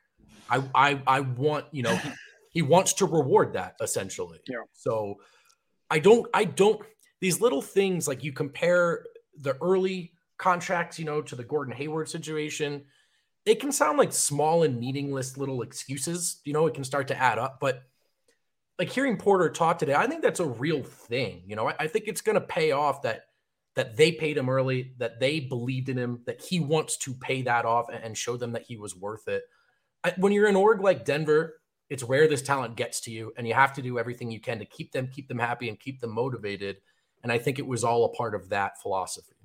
I want, you know, he wants to reward that essentially. Yeah. So I don't, these little things, like you compare the early contracts, you know, to the Gordon Hayward situation, they can sound like small and meaningless little excuses, you know, it can start to add up, but like hearing Porter talk today, I think that's a real thing. You know, I think it's going to pay off that they paid him early, that they believed in him, that he wants to pay that off and show them that he was worth it. When you're an org like Denver, it's rare this talent gets to you, and you have to do everything you can to keep them happy and keep them motivated. And I think it was all a part of that philosophy.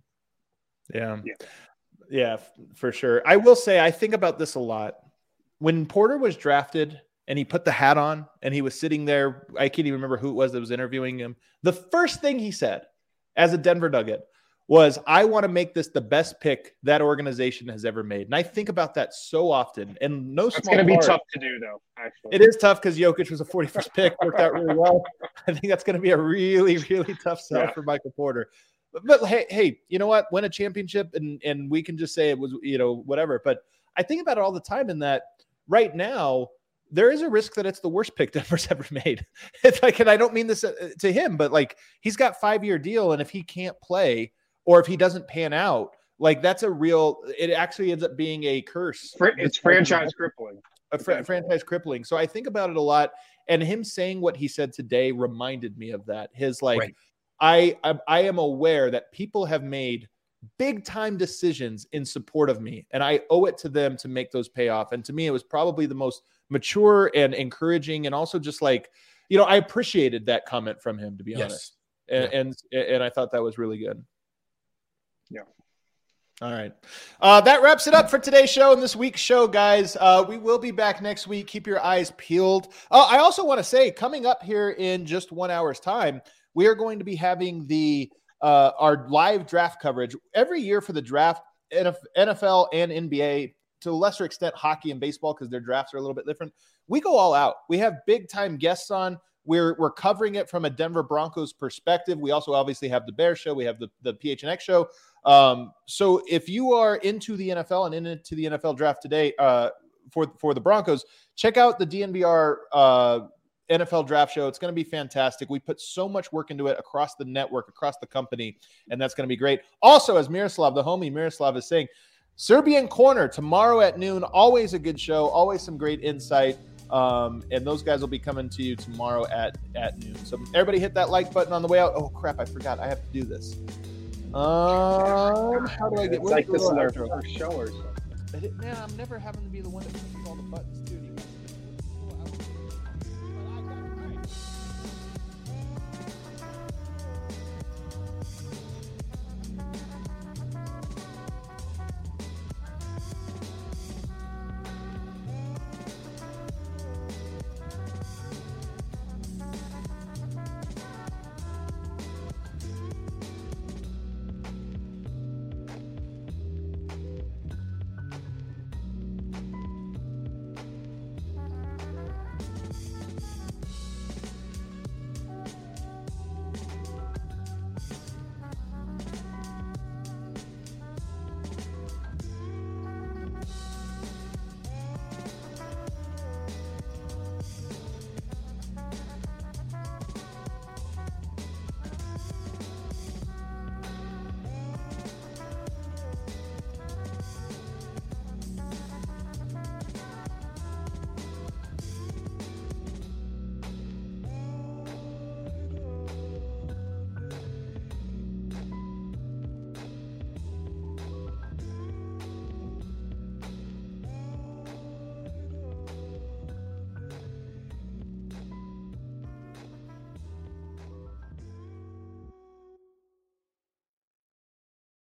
Yeah, for sure. I will say, I think about this a lot. When Porter was drafted and he put the hat on and he was sitting there, I can't even remember who it was that was interviewing him. The first thing he said as a Denver Nugget was, I want to make this the best pick that organization has ever made. And I think about that so often. And it's going to be tough to do, though, actually. It is tough because Jokic was a 41st pick, worked out really well. I think that's going to be a really, really tough sell for Michael Porter. But hey, you know what? Win a championship and we can just say it was, you know, whatever. But I think about it all the time in that right now, there is a risk that it's the worst pick Denver's ever made. It's like, and I don't mean this to him, but like he's got a 5-year deal. And if he can't play or if he doesn't pan out, like that's it actually ends up being a curse. It's franchise crippling. Franchise crippling. So I think about it a lot. And him saying what he said today reminded me of that. His like, right. I am aware that people have made big time decisions in support of me, and I owe it to them to make those pay off. And to me, it was probably the most mature and encouraging, and also just like, you know, I appreciated that comment from him, to be honest. And I thought that was really good. Yeah. All right. That wraps it up for today's show and this week's show, guys. We will be back next week. Keep your eyes peeled. I also want to say, coming up here in just 1 hour's time, we are going to be having our live draft coverage every year for the draft, NFL and NBA, to a lesser extent hockey and baseball because their drafts are a little bit different. We go all out. We have big time guests on. we're covering it from a Denver Broncos perspective. We also obviously have the Bear Show. We have the PHNX show. So if you are into the NFL and into the NFL draft today for the Broncos, check out the DNVR NFL draft show. It's going to be fantastic. We put so much work into it across the network, across the company, and that's going to be great. Also, as Miroslav, the homie Miroslav, is saying, Serbian Corner tomorrow at noon. Always a good show. Always some great insight. And those guys will be coming to you tomorrow at noon. So everybody hit that like button on the way out. Oh crap, I forgot. I have to do this. How do I get? It's like this is our first show or something. Man, I'm never having to be the one that pushes all the buttons too.